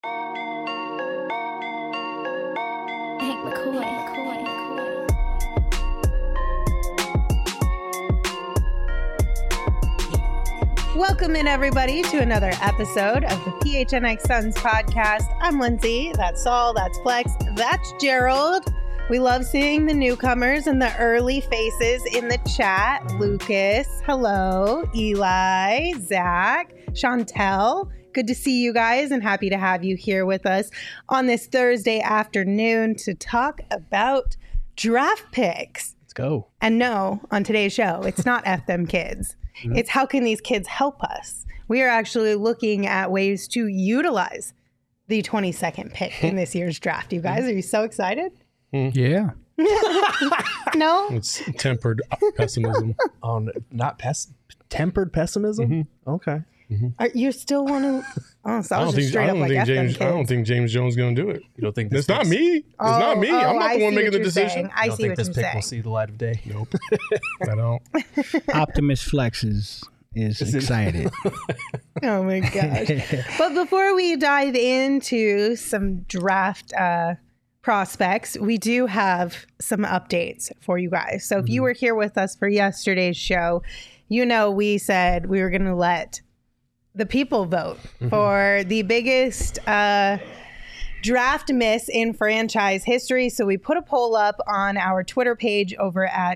Welcome in, everybody, to another episode of the PHNX Suns podcast. I'm Lindsay. That's Saul. That's Flex. That's Gerald. We love seeing the newcomers and the early faces in the chat. Lucas, hello. Eli, Zach, Chantel. Good to see you guys and happy to have you here with us on this Thursday afternoon to talk about draft picks. Let's go. And no, on today's show, it's not F them kids. Mm-hmm. It's how can these kids help us? We are actually looking at ways to utilize the 22nd pick in this year's draft. You guys, are you so excited? Yeah. No? It's tempered pessimism. Tempered pessimism? Mm-hmm. Okay. Mm-hmm. You still want to? Oh, so I was just straight up like F them kids. I don't think James Jones is going to do it. You don't think it's not me? It's not me. I'm not the one making the decision. Saying. I see what you're saying. This pick will see the light of day? Nope. I don't. Optimus Flex is excited. Oh my gosh. But before we dive into some draft prospects, we do have some updates for you guys. So if you were here with us for yesterday's show, you know we said we were going to let the people vote for the biggest draft miss in franchise history. So we put a poll up on our Twitter page over at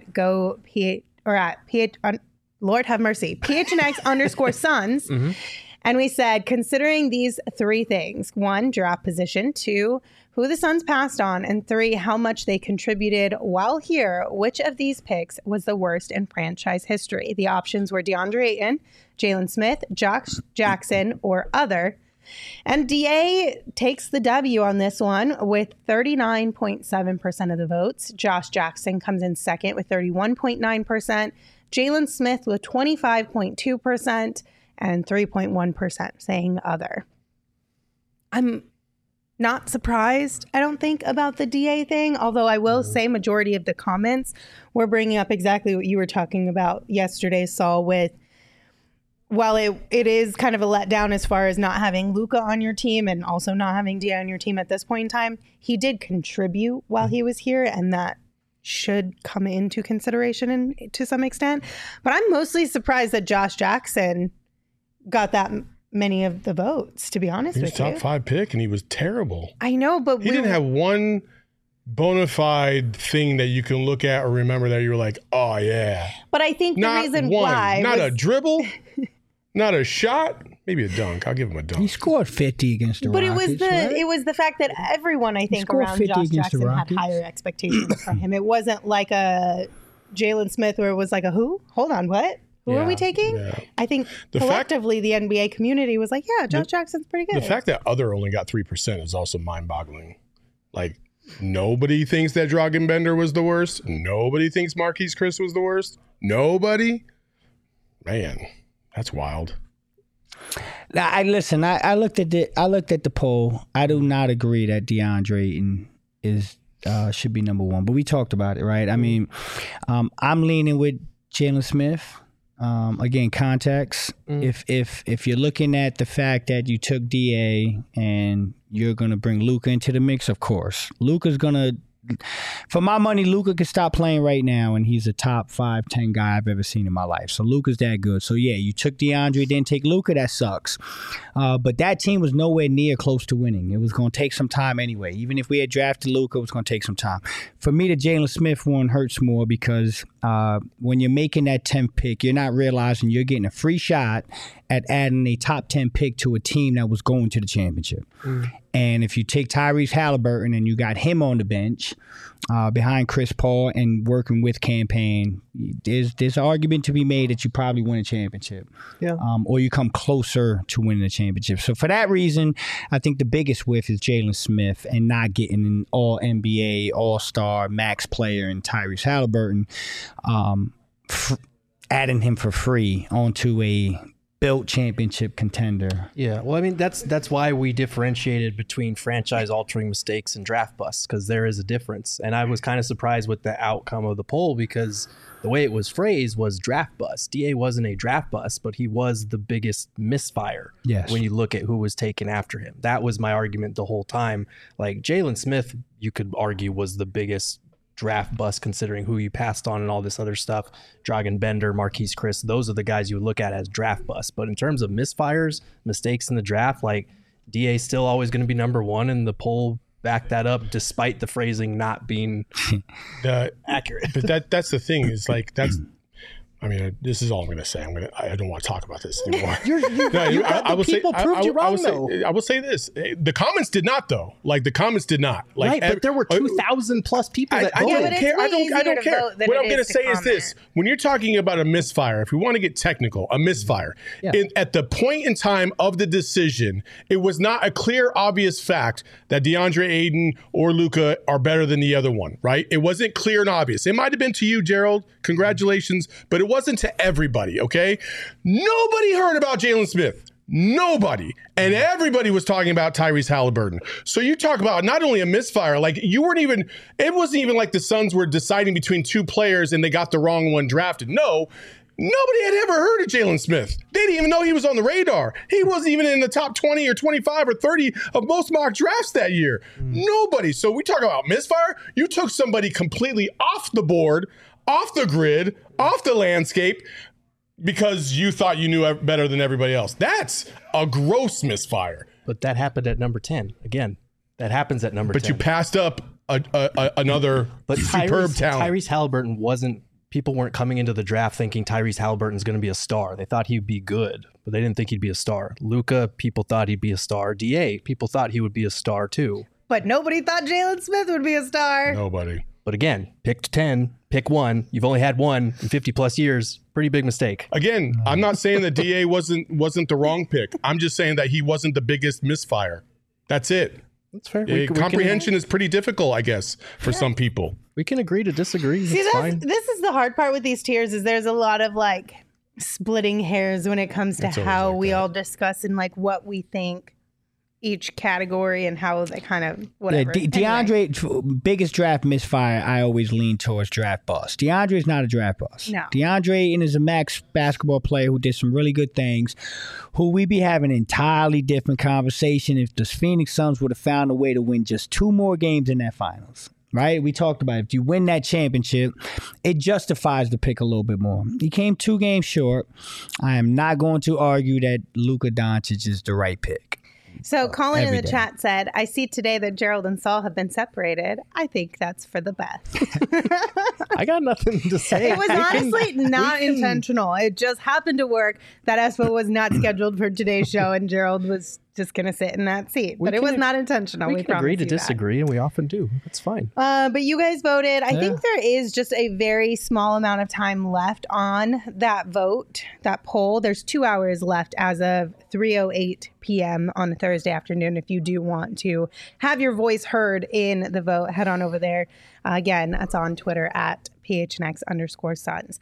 Lord have mercy, PHNX_Suns. And we said, considering these three things: 1, draft position; 2, who the Suns passed on; and 3, how much they contributed while here, which of these picks was the worst in franchise history? The options were DeAndre Ayton, Jalen Smith, Josh Jackson, or other. And DA takes the W on this one with 39.7% of the votes. Josh Jackson comes in second with 31.9%. Jalen Smith with 25.2%. and 3.1% saying other. I'm not surprised, I don't think, about the DA thing, although I will say majority of the comments were bringing up exactly what you were talking about yesterday, Saul, with, while it is kind of a letdown as far as not having Luka on your team and also not having DA on your team at this point in time, he did contribute while he was here, and that should come into consideration to some extent. But I'm mostly surprised that Josh Jackson got that many of the votes, to be honest with you. He was top 5 pick and he was terrible. I know, but he didn't have one bona fide thing that you can look at or remember that you were like, oh yeah. But I think the reason why not a dribble, not a shot, maybe a dunk. I'll give him a dunk. He scored 50 against the Rockets. But it was the fact that everyone, I think, around Josh Jackson had higher expectations from him. It wasn't like a Jalen Smith where it was like a who? Hold on, what? Who are we taking? Yeah. I think collectively the NBA community was like, yeah, Josh Jackson's pretty good. The fact that other only got 3% is also mind-boggling. Like, nobody thinks that Dragan Bender was the worst. Nobody thinks Marquise Chris was the worst. Nobody. Man, that's wild. Now, I looked at the poll. I do not agree that DeAndre Ayton should be number 1, but we talked about it, right? I mean, I'm leaning with Jalen Smith. Again, context. If you're looking at the fact that you took DA and you're gonna bring Luka into the mix, of course, Luka's gonna. For my money, Luka could stop playing right now, and he's a top 5, 10 guy I've ever seen in my life. So Luka's that good. So yeah, you took DeAndre, didn't take Luka. That sucks. But that team was nowhere near close to winning. It was going to take some time anyway. Even if we had drafted Luka, it was going to take some time. For me, the Jalen Smith one hurts more because when you're making that 10th pick, you're not realizing you're getting a free shot at adding a top 10 pick to a team that was going to the championship. And if you take Tyrese Halliburton and you got him on the bench behind Chris Paul and working with campaign, there's an argument to be made that you probably win a championship. Yeah. Or you come closer to winning a championship. So for that reason, I think the biggest whiff is Jalen Smith and not getting an all-NBA, all-star, max player in Tyrese Halliburton, adding him for free onto a built championship contender. Yeah, well, I mean, that's why we differentiated between franchise-altering mistakes and draft busts, because there is a difference. And I was kind of surprised with the outcome of the poll, because the way it was phrased was draft bust. DA wasn't a draft bust, but he was the biggest misfire. Yes. When you look at who was taken after him. That was my argument the whole time. Like, Jalen Smith, you could argue, was the biggest draft bust considering who you passed on and all this other stuff. Dragan Bender, Marquise Chris, those are the guys you would look at as draft busts. But in terms of misfires, mistakes in the draft, like, DA still always going to be number one, and the poll backed that up despite the phrasing not being accurate. But that's the thing, is like, I mean, this is all I'm going to say. I don't want to talk about this anymore. I will say this. The comments did not, though. Like, the comments did not. Like, right, but there were 2,000 plus people that voted. I don't care. What I'm going to say is this. When you're talking about a misfire, if we want to get technical, a misfire, at the point in time of the decision, it was not a clear, obvious fact that DeAndre Ayton or Luka are better than the other one, right? It wasn't clear and obvious. It might have been to you, Gerald. Congratulations. But it wasn't to everybody, okay? Nobody heard about Jalen Smith. Nobody. And everybody was talking about Tyrese Halliburton. So you talk about not only a misfire, like, it wasn't even like the Suns were deciding between two players and they got the wrong one drafted. No, nobody had ever heard of Jalen Smith. They didn't even know he was on the radar. He wasn't even in the top 20 or 25 or 30 of most mock drafts that year. Nobody. So we talk about misfire. You took somebody completely off the board, off the grid, off the landscape, because you thought you knew better than everybody else. That's a gross misfire. But that happened at number 10. Again, that happens at number 10. But you passed up another superb talent. Tyrese Halliburton people weren't coming into the draft thinking Tyrese Halliburton's going to be a star. They thought he'd be good, but they didn't think he'd be a star. Luka, people thought he'd be a star. DA, people thought he would be a star too. But nobody thought Jalen Smith would be a star. Nobody. But again, picked 10, pick one. You've only had one in 50 plus years. Pretty big mistake. Again, I'm not saying that DA wasn't the wrong pick. I'm just saying that he wasn't the biggest misfire. That's it. That's fair. Comprehension is pretty difficult, I guess, for some people. We can agree to disagree. See, That's fine. This is the hard part with these tiers, is there's a lot of like splitting hairs when it comes to how we all discuss and like what we think each category and how they kind of whatever. Yeah, DeAndre, biggest draft misfire, I always lean towards draft bust. DeAndre is not a draft bust. No. DeAndre is a max basketball player who did some really good things, who we'd be having an entirely different conversation if the Phoenix Suns would have found a way to win just 2 more games in that finals. Right? We talked about it. If you win that championship, it justifies the pick a little bit more. He came 2 games short. I am not going to argue that Luka Doncic is the right pick. So Colin in the chat said, I see today that Gerald and Saul have been separated. I think that's for the best. I got nothing to say. It was honestly not intentional. It just happened to work that Espo was not scheduled for today's show and Gerald was just going to sit in that seat. But it was not intentional. We can agree to disagree, and we often do. That's fine. But you guys voted. I think there is just a very small amount of time left on that vote, that poll. There's 2 hours left as of 3:08 p.m. on a Thursday afternoon. If you do want to have your voice heard in the vote, head on over there. Again, that's on Twitter at PHNX_Suns.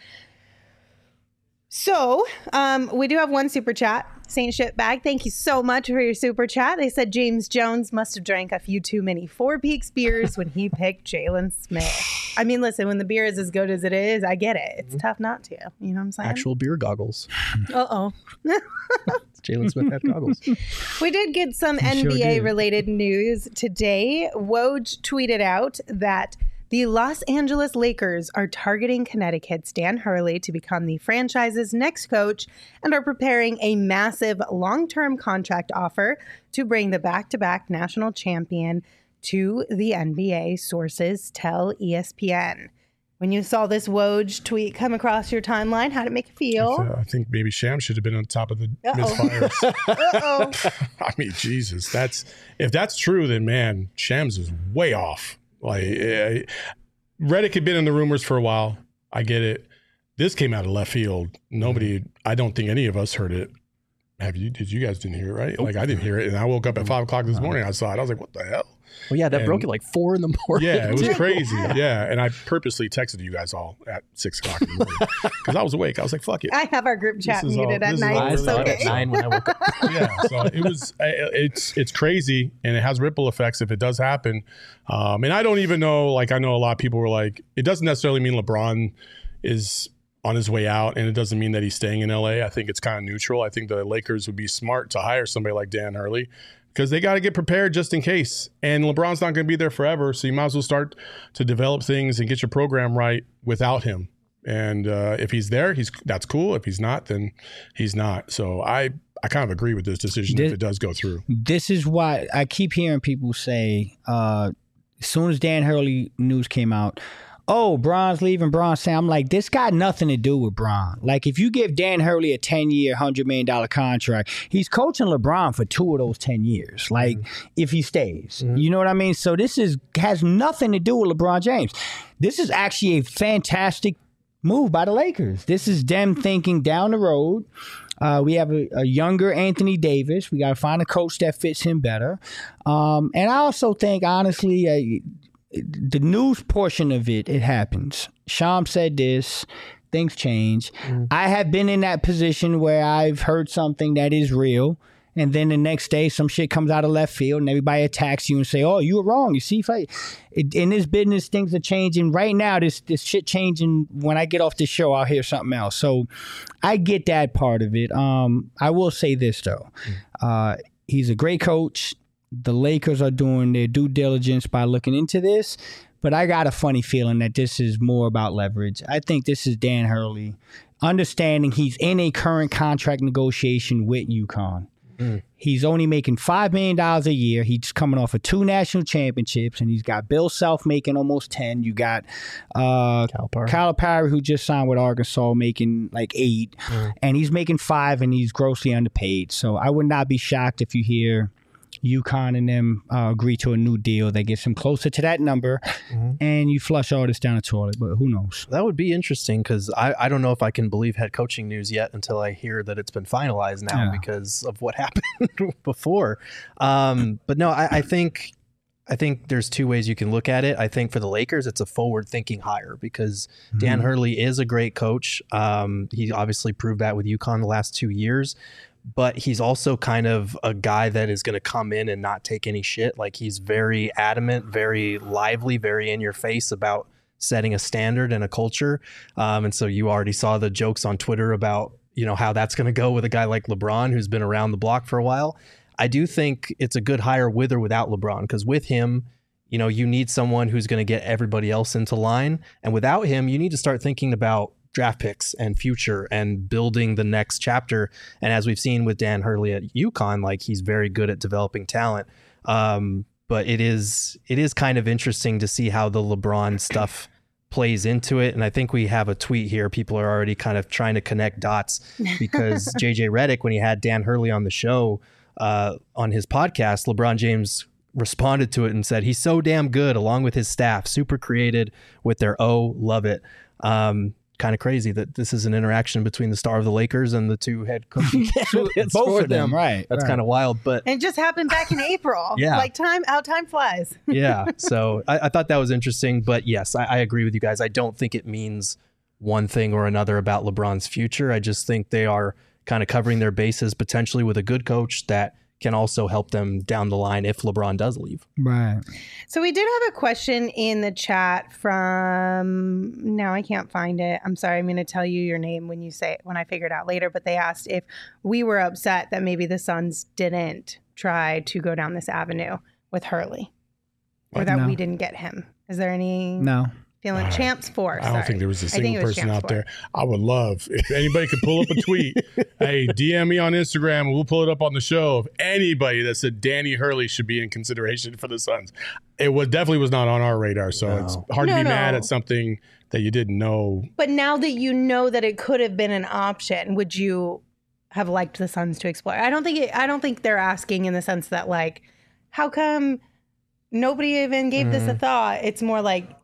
So we do have one super chat. Saint Shitbag, thank you so much for your super chat. They said James Jones must have drank a few too many Four Peaks beers when he picked Jalen Smith. I mean, listen, when the beer is as good as it is, I get it. It's tough not to. You know what I'm saying? Actual beer goggles. Uh-oh. Jalen Smith had goggles. We did get some NBA-related news today. Woj tweeted out that the Los Angeles Lakers are targeting Connecticut's Dan Hurley to become the franchise's next coach and are preparing a massive long-term contract offer to bring the back-to-back national champion to the NBA, sources tell ESPN. When you saw this Woj tweet come across your timeline, how'd it make you feel? I think maybe Sham should have been on top of the misfires. I mean, Jesus, if that's true, then man, Shams is way off. Like, Redick had been in the rumors for a while. I get it. This came out of left field. I don't think any of us heard it. Did you guys didn't hear it, right? Like I didn't hear it, and I woke up at 5 o'clock this morning. I saw it. I was like, what the hell? Well, yeah, that broke at like 4 in the morning. Yeah, it was crazy. Yeah, and I purposely texted you guys all at 6 o'clock in the morning because I was awake. I was like, fuck it. I have our group chat This is muted all- at this is night. all I It's saw it okay. at 9 when I woke up. Yeah, so it's crazy, and it has ripple effects if it does happen. And I don't even know. Like I know a lot of people were like, it doesn't necessarily mean LeBron is on his way out, and it doesn't mean that he's staying in LA. I think it's kind of neutral. I think the Lakers would be smart to hire somebody like Dan Hurley because they got to get prepared just in case. And LeBron's not going to be there forever, so you might as well start to develop things and get your program right without him. And if he's there, that's cool. If he's not, then he's not. So I kind of agree with this decision if it does go through. This is why I keep hearing people say, as soon as Dan Hurley news came out, oh, Bron's leaving, Bron's saying, I'm like, this got nothing to do with Bron. Like, if you give Dan Hurley a 10-year, $100 million contract, he's coaching LeBron for 2 of those 10 years. Like, if he stays. You know what I mean? So this has nothing to do with LeBron James. This is actually a fantastic move by the Lakers. This is them thinking down the road. We have a younger Anthony Davis. We got to find a coach that fits him better. And I also think, honestly, the news portion of it happens. Sham said this. Things change. I have been in that position where I've heard something that is real, and then the next day some shit comes out of left field, and everybody attacks you and say, "Oh, you were wrong." You see, in this business, things are changing. Right now, this shit changing. When I get off this show, I'll hear something else. So, I get that part of it. I will say this though, he's a great coach. The Lakers are doing their due diligence by looking into this, but I got a funny feeling that this is more about leverage. I think this is Dan Hurley understanding he's in a current contract negotiation with UConn. He's only making $5 million a year. He's coming off of 2 national championships, and he's got Bill Self making almost 10. You got Calipari, who just signed with Arkansas, making like 8, and he's making 5, and he's grossly underpaid. So I would not be shocked if you hear UConn and them agree to a new deal that gets him closer to that number, and you flush all this down the toilet. But who knows? That would be interesting because I don't know if I can believe head coaching news yet until I hear that it's been finalized now because of what happened before. But no, I think there's 2 ways you can look at it. I think for the Lakers, it's a forward-thinking hire because Dan Hurley is a great coach. He obviously proved that with UConn the last 2 years. But he's also kind of a guy that is going to come in and not take any shit. Like he's very adamant, very lively, very in your face about setting a standard and a culture. And so you already saw the jokes on Twitter about, how that's going to go with a guy like LeBron, who's been around the block for a while. I do think it's a good hire with or without LeBron, because with him, you need someone who's going to get everybody else into line. And without him, you need to start thinking about draft picks and future and building the next chapter. And as we've seen with Dan Hurley at UConn, like he's very good at developing talent. But it is kind of interesting to see how the LeBron stuff plays into it. And I think we have a tweet here. People are already kind of trying to connect dots because JJ Redick, when he had Dan Hurley on the show, on his podcast, LeBron James responded to it and said, he's so damn good along with his staff, super created with their love it. Kind of crazy that this is an interaction between the star of the Lakers and the 2 head coaching candidates Both for of them, right? That's kind of wild, but And it just happened back in April. Yeah. Like time flies. yeah. So I thought that was interesting, but yes, I agree with you guys. I don't think it means one thing or another about LeBron's future. I just think they are kind of covering their bases potentially with a good coach that can also help them down the line if LeBron does leave. Right. So we did have a question in the chat from, now I can't find it. I'm sorry. I'm going to tell you your name when I figure it out later. But they asked if we were upset that maybe the Suns didn't try to go down this avenue with Hurley, or that we didn't get him. Is there any feeling? Champs 4. I don't think there was a single person out 4. there. I would love if anybody could pull up a tweet. Hey, DM me on Instagram and we'll pull it up on the show. If anybody that said Danny Hurley should be in consideration for the Suns, it definitely was not on our radar. So it's hard to be mad at something that you didn't know. But now that you know that it could have been an option, would you have liked the Suns to explore? I don't think they're asking in the sense that like, how come nobody even gave this a thought? It's more like,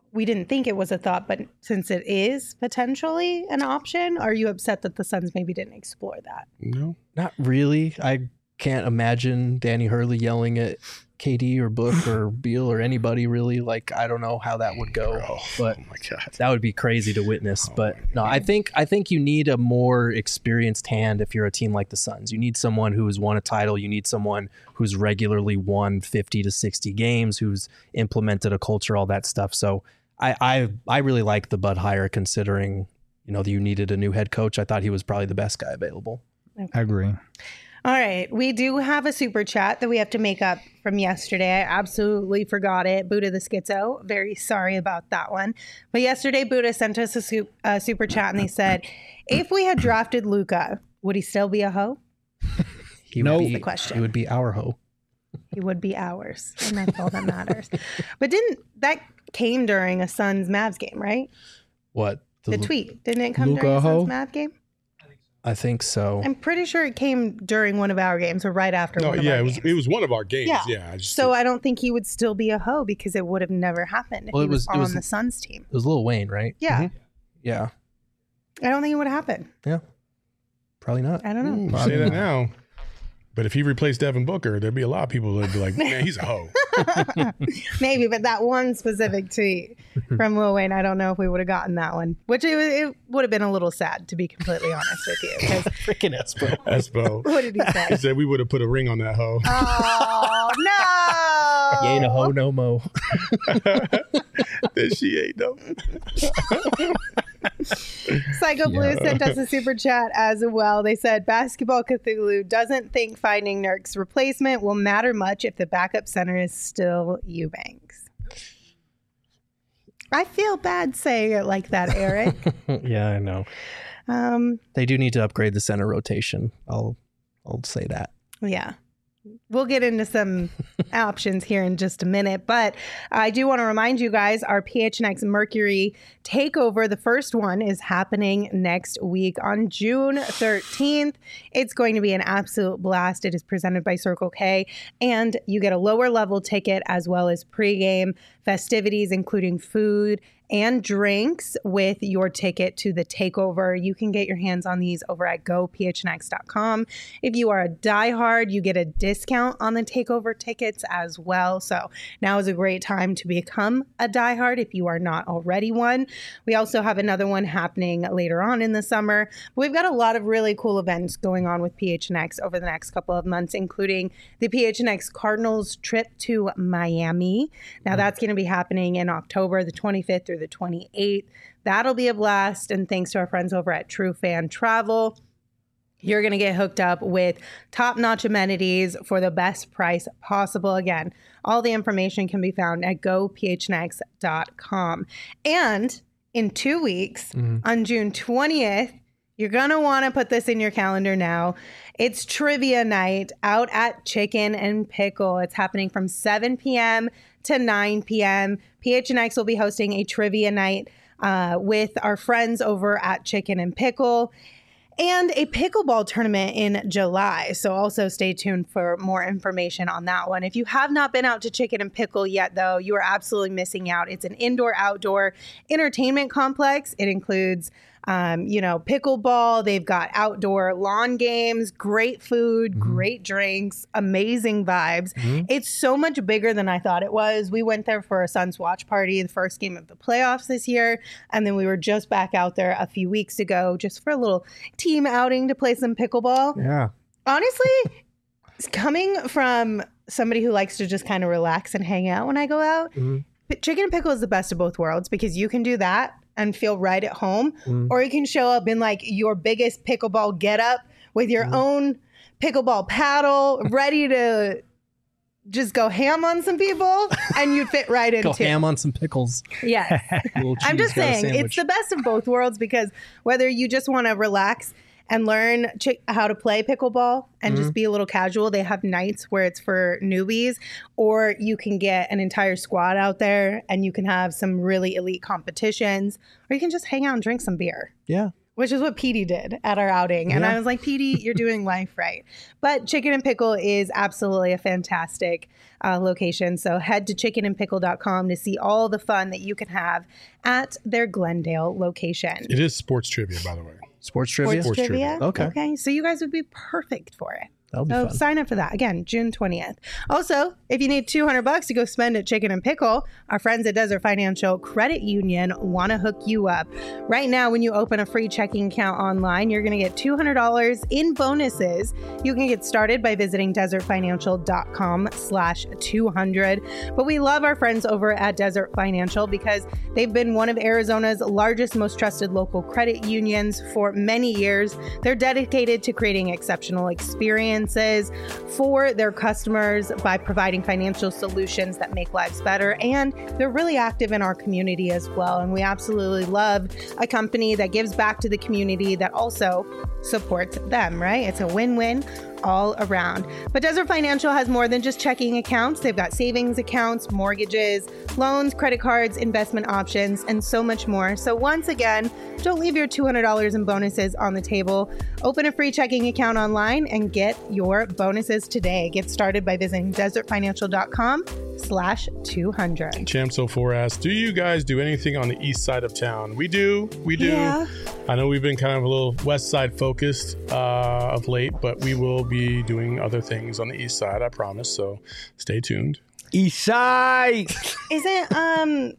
we didn't think it was a thought, but since it is potentially an option, are you upset that the Suns maybe didn't explore that? No. Not really. I can't imagine Danny Hurley yelling at KD or Book or Beal or anybody really. Like, I don't know how that would go, but Oh my God. that would be crazy to witness. But no, I think you need a more experienced hand if you're a team like the Suns. You need someone who has won a title. You need someone who's regularly won 50 to 60 games, who's implemented a culture, all that stuff. So I really like the Bud hire, considering, you know, that you needed a new head coach. I thought he was probably the best guy available. I agree. All right. We do have a super chat that we have to make up from yesterday. I absolutely forgot it. Buddha the Schizo. Very sorry about that one. But yesterday, Buddha sent us a super chat and they said, if we had drafted Luka, would he still be a hoe? No, That's the question. He would be our hoe. He would be ours. And that's all that matters. But that came during a Suns Mavs game, right? What? The tweet. Didn't it come Luka during a hoe? Suns Mavs game? I think so. I'm pretty sure it came during one of our games or right after No, one of yeah, our it games. was one of our games. Yeah. Yeah. So I don't think he would still be a hoe because it would have never happened if Well, he it was was- it on was- the Suns team. It was Lil Wayne, right? Yeah. Yeah. I don't think it would have happened. Yeah. Probably not. I don't know. Say that now. But if he replaced Devin Booker, there'd be a lot of people that'd be like, man, he's a hoe. Maybe, but that one specific tweet from Lil Wayne, I don't know if we would have gotten that one, which it would have been a little sad, to be completely honest with you. 'Cause Freaking Espo. Espo. what did he He say? said we would have put a ring on that hoe. Oh, no. You ain't a hoe no mo. That she ain't though. Psycho Blue sent us a super chat as well. They said Basketball Cthulhu doesn't think finding Nurk's replacement will matter much if the backup center is still Eubanks. I feel bad saying it like that, Eric. Yeah, I know. They do need to upgrade the center rotation. I'll say that. Yeah. We'll get into some options here in just a minute, but I do want to remind you guys our PHNX Mercury takeover, the first one, is happening next week on June 13th. It's going to be an absolute blast. It is presented by Circle K, and you get a lower level ticket as well as pregame festivities, including food and drinks with your ticket to the takeover. You can get your hands on these over at gophnx.com. If you are a diehard, you get a discount on the takeover tickets as well. So now is a great time to become a diehard if you are not already one. We also have another one happening later on in the summer. We've got a lot of really cool events going on with PHNX over the next couple of months, including the PHNX Cardinals trip to Miami. Now that's going to be happening in October the 25th through the 28th. That'll be a blast. And thanks to our friends over at True Fan Travel, you're going to get hooked up with top-notch amenities for the best price possible. Again, all the information can be found at gophnx.com. And in 2 weeks, on June 20th, you're going to want to put this in your calendar now. It's trivia night out at Chicken and Pickle. It's happening from 7 p.m. to 9 p.m. PHNX will be hosting a trivia night with our friends over at Chicken and Pickle, and a pickleball tournament in July. So also stay tuned for more information on that one. If you have not been out to Chicken and Pickle yet, though, you are absolutely missing out. It's an indoor-outdoor entertainment complex. It includes pickleball. They've got outdoor lawn games, great food, great drinks, amazing vibes. It's so much bigger than I thought it was. We went there for a Suns watch party, the first game of the playoffs this year. And then we were just back out there a few weeks ago just for a little team outing to play some pickleball. Yeah. Honestly, coming from somebody who likes to just kind of relax and hang out when I go out, Chicken and Pickle is the best of both worlds because you can do that and feel right at home, or you can show up in like your biggest pickleball getup with your own pickleball paddle, ready to just go ham on some people, and you'd fit right into. Go ham on some pickles. Yes. Little I'm cheese, just got a saying, it's sandwich. the best of both worlds because whether you just want to relax and learn how to play pickleball and just be a little casual, they have nights where it's for newbies, or you can get an entire squad out there and you can have some really elite competitions, or you can just hang out and drink some beer. Yeah. which is what Petey did at our outing. And I was like, Petey, you're doing life right. But Chicken and Pickle is absolutely a fantastic location. So head to chickenandpickle.com to see all the fun that you can have at their Glendale location. It is sports trivia, by the way. Sports trivia? Sports trivia? Okay. So you guys would be perfect for it. That'll be So fun. sign up for that. Again, June 20th. Also, if you need $200 to go spend at Chicken and Pickle, our friends at Desert Financial Credit Union want to hook you up. Right now, when you open a free checking account online, you're going to get $200 in bonuses. You can get started by visiting desertfinancial.com/200. But we love our friends over at Desert Financial because they've been one of Arizona's largest, most trusted local credit unions for many years. They're dedicated to creating exceptional experiences for their customers by providing financial solutions that make lives better. And they're really active in our community as well. And we absolutely love a company that gives back to the community that also supports them, right? It's a win-win all around. But Desert Financial has more than just checking accounts. They've got savings accounts, mortgages, loans, credit cards, investment options, and so much more. So once again, don't leave your $200 in bonuses on the table. Open a free checking account online and get your bonuses today. Get started by visiting desertfinancial.com/200. Champ04 asks, do you guys do anything on the east side of town? We do. Yeah. I know we've been kind of a little west side focused of late, but we will be doing other things on the east side, I promise. So stay tuned. East side. Isn't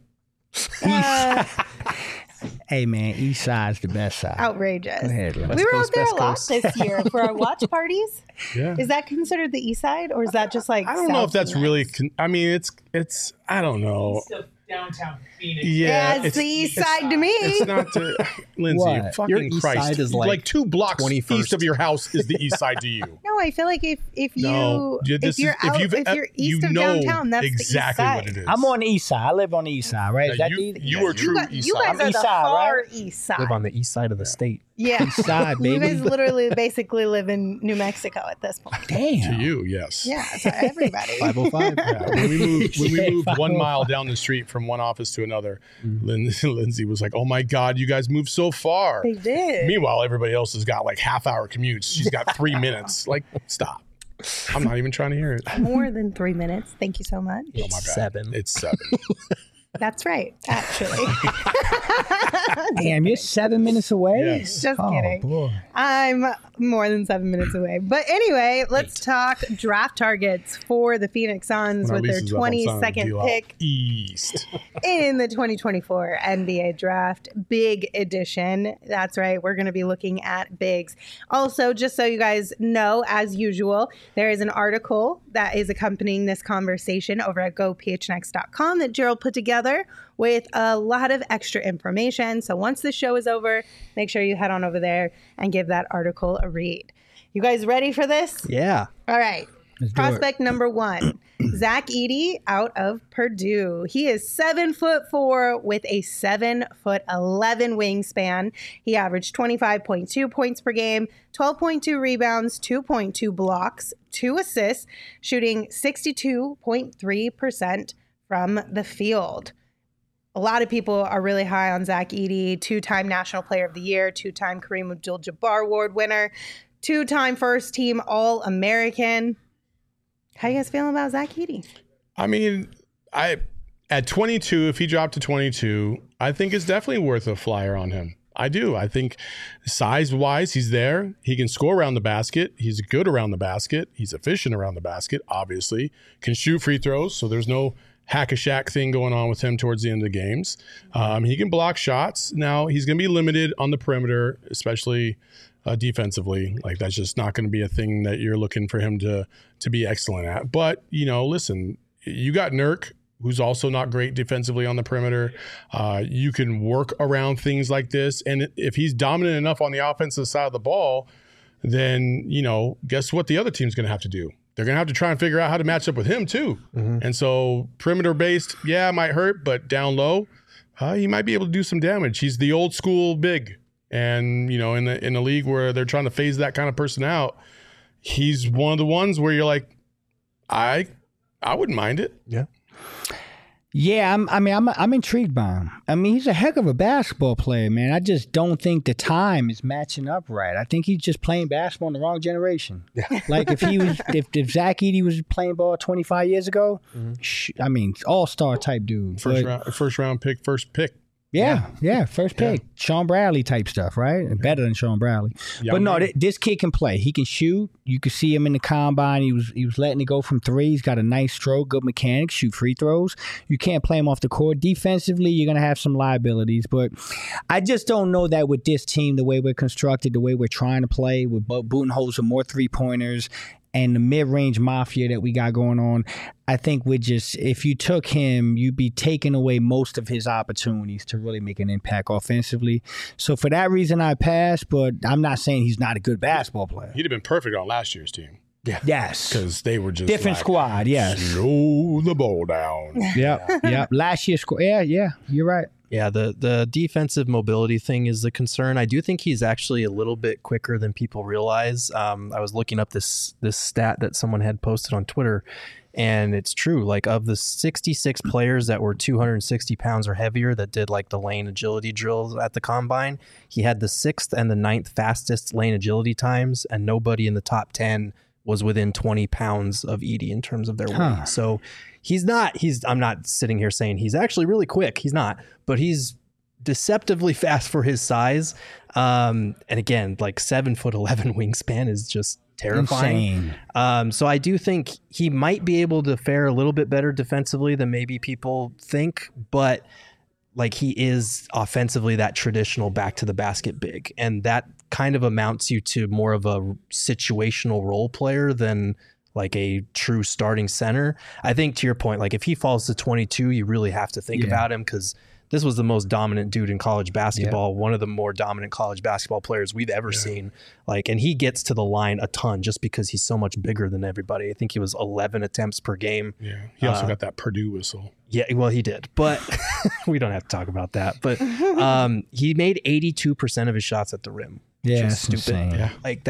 Hey man, East side's the best side. outrageous? Go ahead, Lynn. We were Coast, out there West a lot Coast. this year for our watch parties. Yeah. Is that considered the east side, or is that just like? I don't know if south that's and really. west? I mean, it's. I don't know. Still downtown Phoenix. Yeah, it's the east side to me. It's not to Lindsay. What? Fucking Your east Christ! side is like like 2 blocks 21st. east of your house is the east side to you. No, I feel like if you No, if you're out, if you're east you of know downtown, that's exactly the east what side. it is. I'm on the east side. I live on the east side, right? Is Yeah, that you, the you are true east You side. guys are East the side, far right? east side. Live on the east side of the state. Yeah, east side, you baby? guys literally basically live in New Mexico at this point. To Damn. you, yes. Yeah, so everybody. 505. Yeah, when we moved Yeah, 1 mile down the street from one office to another, Lindsay was like, "Oh my God, you guys moved so far." They did. Meanwhile, everybody else has got like half-hour commutes. She's got 3 minutes. Like, stop. I'm not even trying to hear it. More than 3 minutes. Thank you so much. Oh my God. 7. It's 7. That's right, actually. Damn, you're 7 minutes away? Yes. Just Oh, kidding. boy. I'm more than 7 minutes away. But anyway, let's talk draft targets for the Phoenix Suns When our with their lease is up, I'm signing a 22nd deal out pick east. in the 2024 NBA draft. Big edition. That's right. We're going to be looking at bigs. Also, just so you guys know, as usual, there is an article that is accompanying this conversation over at gophnx.com that Gerald put together with a lot of extra information. So once the show is over, make sure you head on over there and give that article a read. You guys ready for this? Yeah. All right. Let's do it. Prospect number 1, Zach Edey out of Purdue. He is 7'4" with a 7'11" wingspan. He averaged 25.2 points per game, 12.2 rebounds, 2.2 blocks, 2 assists, shooting 62.3% from the field. A lot of people are really high on Zach Edey, 2-time National Player of the Year, 2-time Kareem Abdul-Jabbar Award winner, 2-time first team All-American. How you guys feeling about Zach Edey? I mean, at 22, if he dropped to 22, I think it's definitely worth a flyer on him. I do. I think size-wise, he's there. He can score around the basket. He's good around the basket. He's efficient around the basket, obviously. Can shoot free throws, so there's no hack-a-shack thing going on with him towards the end of the games. He can block shots. Now, he's going to be limited on the perimeter, especially defensively. Like, that's just not going to be a thing that you're looking for him to be excellent at. But, you know, listen, you got Nurk, who's also not great defensively on the perimeter. You can work around things like this. And if he's dominant enough on the offensive side of the ball, then, you know, guess what the other team's going to have to do? They're going to have to try and figure out how to match up with him too. And so perimeter-based, yeah, it might hurt, but down low, he might be able to do some damage. He's the old school big. And, you know, in the league where they're trying to phase that kind of person out, he's one of the ones where you're like, I wouldn't mind it. Yeah. Yeah, I'm intrigued by him. I mean, he's a heck of a basketball player, man. I just don't think the time is matching up right. I think he's just playing basketball in the wrong generation. Like if Zach Edey was playing ball 25 years ago, I mean, all-star type dude. First round pick, first pick. Yeah, first pick. Yeah. Sean Bradley type stuff, right? Yeah. Better than Sean Bradley. But no, this kid can play. He can shoot. You could see him in the combine. He was letting it go from three. He's got a nice stroke, good mechanics, shoot free throws. You can't play him off the court. Defensively, you're going to have some liabilities. But I just don't know that with this team, the way we're constructed, the way we're trying to play, with Budenholzer, more three-pointers, and the mid-range mafia that we got going on, I think if you took him, you'd be taking away most of his opportunities to really make an impact offensively. So for that reason, I pass, but I'm not saying he's not a good basketball player. He'd have been perfect on last year's team. Yeah. Yes. Because they were just different squad, yes. Slow the ball down. Yep. Last year's squad, yeah, you're right. Yeah, the defensive mobility thing is the concern. I do think he's actually a little bit quicker than people realize. I was looking up this stat that someone had posted on Twitter, and it's true. Like, of the 66 players that were 260 pounds or heavier that did like the lane agility drills at the combine, he had the 6th and the 9th fastest lane agility times, and nobody in the top 10 was within 20 pounds of Edey in terms of their weight. So I'm not sitting here saying he's actually really quick. He's not, but he's deceptively fast for his size. And again, like 7'11" wingspan is just terrifying. So I do think he might be able to fare a little bit better defensively than maybe people think, but like he is offensively that traditional back to the basket big. And that kind of amounts you to more of a situational role player than like a true starting center. I think to your point, like if he falls to 22, you really have to think about him, because this was the most dominant dude in college basketball, one of the more dominant college basketball players we've ever seen. Like, and he gets to the line a ton just because he's so much bigger than everybody. I think he was 11 attempts per game. Yeah. He also got that Purdue whistle. Yeah, well, he did, but we don't have to talk about that. But he made 82% of his shots at the rim. Yeah, that's stupid. Insane. Yeah. Like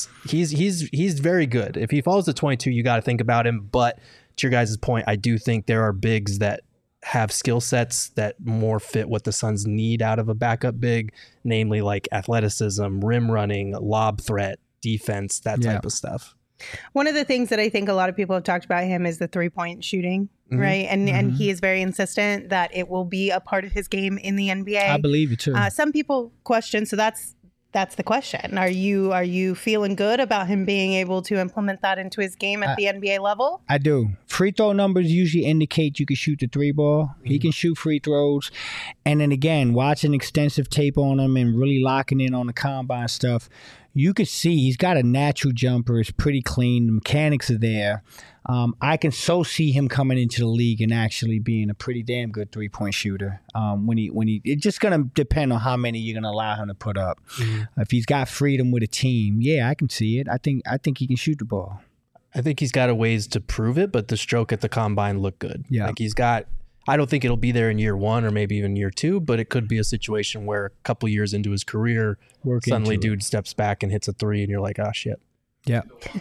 he's very good. If he falls to 22, you got to think about him. But to your guys' point, I do think there are bigs that have skill sets that more fit what the Suns need out of a backup big, namely like athleticism, rim running, lob threat, defense, that type of stuff. One of the things that I think a lot of people have talked about him is the 3-point shooting, right? And he is very insistent that it will be a part of his game in the NBA. I believe it too. Some people question, so that's the question. Are you feeling good about him being able to implement that into his game at the NBA level? I do. Free throw numbers usually indicate you can shoot the 3 ball. He can shoot free throws. And then again, watching extensive tape on him and really locking in on the combine stuff, you could see he's got a natural jumper. It's pretty clean. The mechanics are there. I can so see him coming into the league and actually being a pretty damn good 3-point shooter. When he, it's just gonna depend on how many you're gonna allow him to put up. If he's got freedom with a team, I can see it. I think he can shoot the ball. I think he's got a ways to prove it, but the stroke at the combine looked good. Yeah, like he's got. I don't think it'll be there in year 1 or maybe even year 2, but it could be a situation where a couple years into his career, suddenly dude steps back and hits a 3 and you're like, oh shit. Yeah.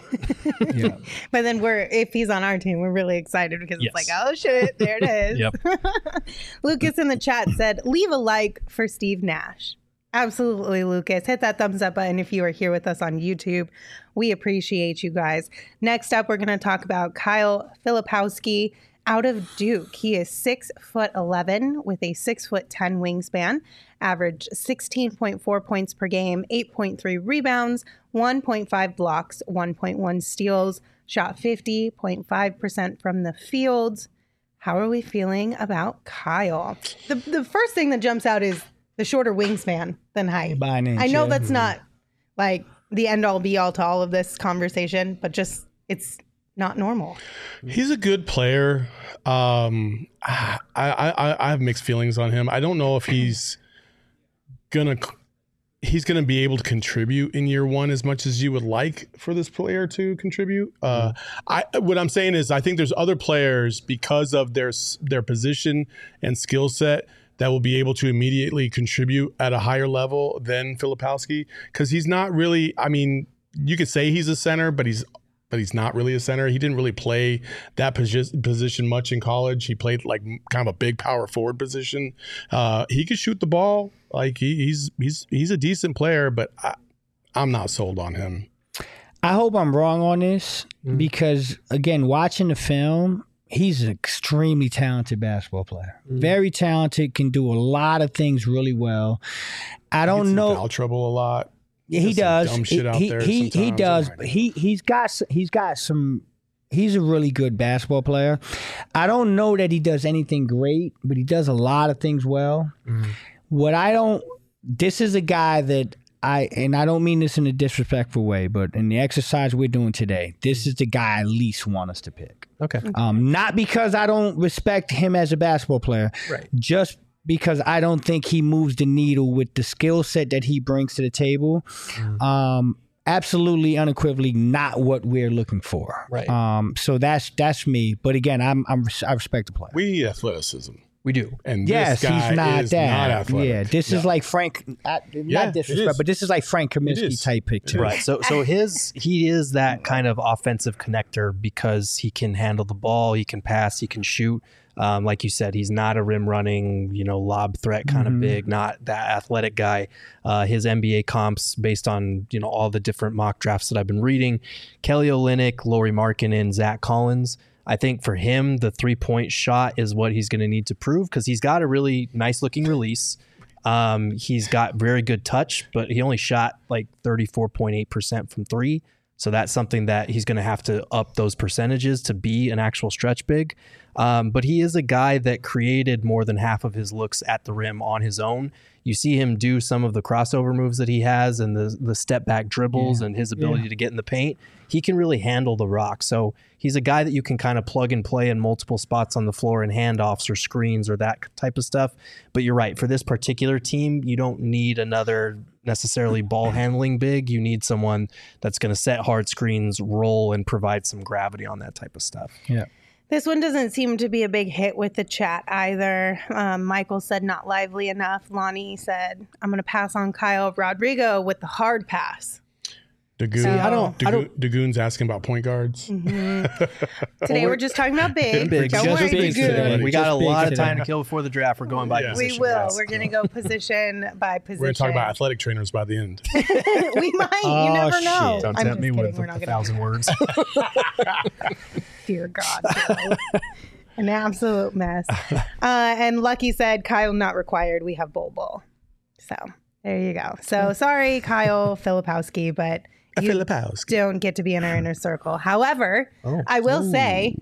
But then if he's on our team, we're really excited because it's like, oh shit, there it is. Lucas in the chat said, leave a like for Steve Nash. Absolutely, Lucas. Hit that thumbs up button if you are here with us on YouTube. We appreciate you guys. Next up, we're going to talk about Kyle Filipowski out of Duke. He is 6'11" with a 6'10" wingspan, averaged 16.4 points per game, 8.3 rebounds, 1.5 blocks, 1.1 steals, shot 50.5% from the field. How are we feeling about Kyle? The first thing that jumps out is the shorter wingspan than height. I know that's not like the end all be all to all of this conversation, but just it's not normal. He's a good player. I have mixed feelings on him. I don't know if he's gonna be able to contribute in year 1 as much as you would like for this player to contribute. What I'm saying is I think there's other players because of their position and skill set that will be able to immediately contribute at a higher level than Filipowski, because he's not really, I mean, you could say he's a center, but he's but he's not really a center. He didn't really play that position much in college. He played like kind of a big power forward position. He could shoot the ball. Like he's a decent player, but I'm not sold on him. I hope I'm wrong on this because, again, watching the film, he's an extremely talented basketball player. Very talented, can do a lot of things really well. I don't know. Foul trouble a lot. He does. Dumb shit out there He sometimes. does. But he's got some. He's a really good basketball player. I don't know that he does anything great, but he does a lot of things well. This is a guy that I don't mean this in a disrespectful way, but in the exercise we're doing today, this is the guy I least want us to pick. Okay. Not because I don't respect him as a basketball player, Right. just because I don't think he moves the needle with the skill set that he brings to the table. Absolutely, unequivocally, not what we're looking for. Right. So that's me. But again, I respect the player. We need athleticism. We do. And Yes, this guy he's not is that. not athletic. Yeah, this is like Frank. Not it disrespect, is. but this is like Frank Kaminsky is. type pick too. Right. So he is that kind of offensive connector because he can handle the ball, he can pass, he can shoot. Like you said, he's not a rim running, lob threat kind of big, not that athletic guy. His NBA comps based on, all the different mock drafts that I've been reading, Kelly Olynyk, Lauri Markkanen, Zach Collins. I think for him, the 3-point shot is what he's going to need to prove because he's got a really nice looking release. He's got very good touch, but he only shot like 34.8% from three. So that's something that he's going to have to up those percentages to be an actual stretch big. But he is a guy that created more than half of his looks at the rim on his own. You see him do some of the crossover moves that he has and the step back dribbles and his ability to get in the paint. He can really handle the rock. So he's a guy that you can kind of plug and play in multiple spots on the floor in handoffs or screens or that type of stuff. But you're right. For this particular team, you don't need another necessarily ball handling big. You need someone that's going to set hard screens, roll, and provide some gravity on that type of stuff. Yeah. This one doesn't seem to be a big hit with the chat either. Michael said not lively enough. Lonnie said, I'm going to pass on Kyle Rodrigo with the hard pass. Dagoon's asking about point guards. Today we're just talking about big. Big. Don't Just worry, big Dagoon. today. We got Just a big lot of today. time to kill before the draft. We're going by Yeah. position. We will. guys. We're going to go position by position. We're going to talk about athletic trainers by the end. We might. You never know. shit. Don't I'm tempt just me kidding. with We're not 1,000 words. Dear God. Joe. An absolute mess. And Lucky said, Kyle not required. We have Bol. So there you go. So sorry, Kyle Filipowski, but you don't get to be in our inner circle. However, I will say,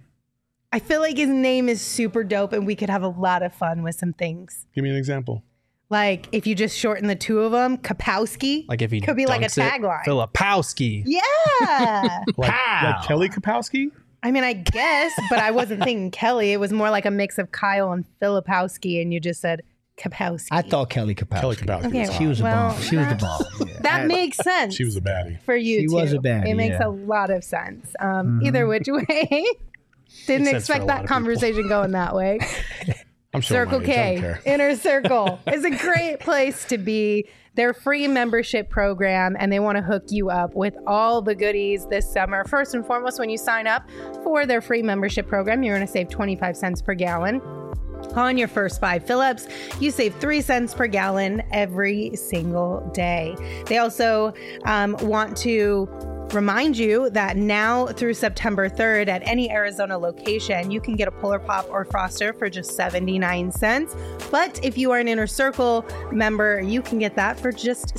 I feel like his name is super dope and we could have a lot of fun with some things. Give me an example. Like if you just shorten the two of them, Kapowski. Like if he could be like a dunks it, tagline. Filipowski. Yeah. Like Kelly Kapowski? I mean, I guess, but I wasn't thinking Kelly. It was more like a mix of Kyle and Filipowski, and you just said Kapowski. I thought Kelly Kapowski. Kelly Kapowski. Okay, was She was a Well, bomb. She was the bomb. Yeah. That makes sense. She was a baddie. for you She too. was a baddie, It makes yeah. a lot of sense. Either which way. Didn't Makes sense for a expect lot that of conversation going that way. I'm sure Circle K, Inner Circle is a great place to be. Their free membership program, and they want to hook you up with all the goodies this summer. First and foremost, when you sign up for their free membership program, you're going to save 25 cents per gallon. On your first 5 fill-ups, you save 3 cents per gallon every single day. They also want to remind you that now through September 3rd at any Arizona location, you can get a Polar Pop or Froster for just 79 cents. But if you are an Inner Circle member, you can get that for just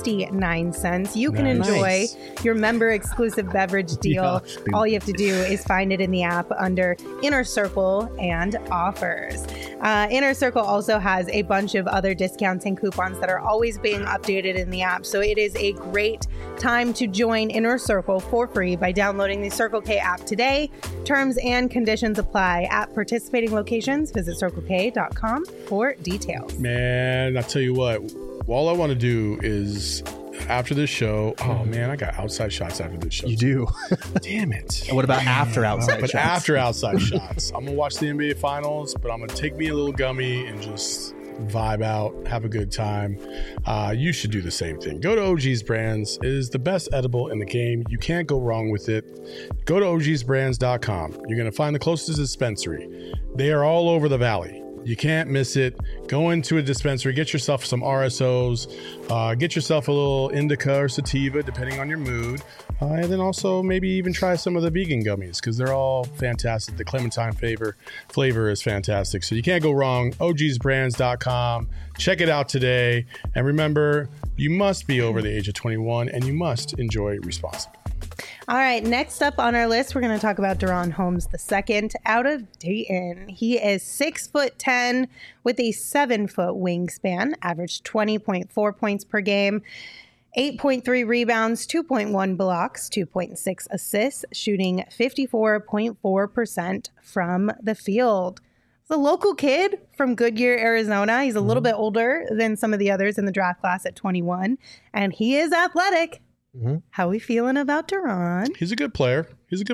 69 cents. You can enjoy your member exclusive beverage deal. All you have to do is find it in the app under Inner Circle and offers. Inner Circle also has a bunch of other discounts and coupons that are always being updated in the app. So it is a great time to join Inner Circle for free by downloading the Circle K app today. Terms and conditions apply at participating locations. Visit CircleK.com for details. Man, I tell you what, all I want to do is after this show. Oh man, I got outside shots after this show. You do. Damn it. And what about after outside But shots? after outside shots, I'm gonna watch the NBA Finals, but I'm gonna take me a little gummy and just vibe out, have a good time, you should do the same thing. Go to OG's Brands. It is the best edible in the game. You can't go wrong with it. Go to ogsbrands.com. You're going to find the closest dispensary. They are all over the valley. You can't miss it. Go into a dispensary, get yourself some RSOs, get yourself a little indica or sativa, depending on your mood. And then also maybe even try some of the vegan gummies because they're all fantastic. The clementine flavor is fantastic. So you can't go wrong. ogsbrands.com. Check it out today. And remember, you must be over the age of 21 and you must enjoy responsibly. All right, next up on our list, we're going to talk about Deron Holmes II out of Dayton. He is 6'10" with a 7-foot wingspan, averaged 20.4 points per game, 8.3 rebounds, 2.1 blocks, 2.6 assists, shooting 54.4% from the field. He's a local kid from Goodyear, Arizona. He's a little bit older than some of the others in the draft class at 21, and he is athletic. How we feeling about Deron? He's a good player.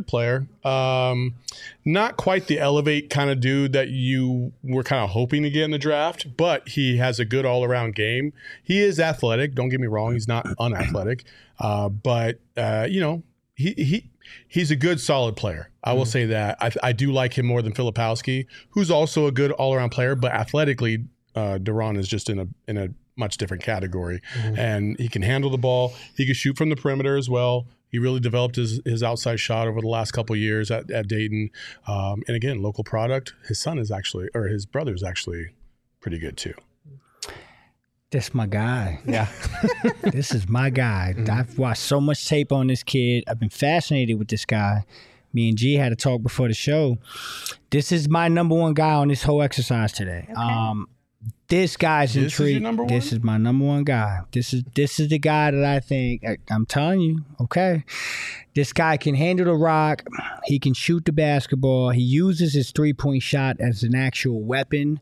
Not quite the elevate kind of dude that you were kind of hoping to get in the draft, but he has a good all-around game. He is athletic. Don't get me wrong. He's not unathletic. But he's a good, solid player. I will say that. I do like him more than Filipowski, who's also a good all-around player, but athletically, Deron is just in a much different category, and he can handle the ball. He can shoot from the perimeter as well. He really developed his outside shot over the last couple of years at Dayton. And again, local product. His brother is actually pretty good too. That's my guy. Yeah. This is my guy. I've watched so much tape on this kid. I've been fascinated with this guy. Me and G had a talk before the show. This is my number one guy on this whole exercise today. Okay. This guy's intrigued. This is my number one guy. This is the guy that I think, I'm telling you, okay. This guy can handle the rock. He can shoot the basketball. He uses his three-point shot as an actual weapon,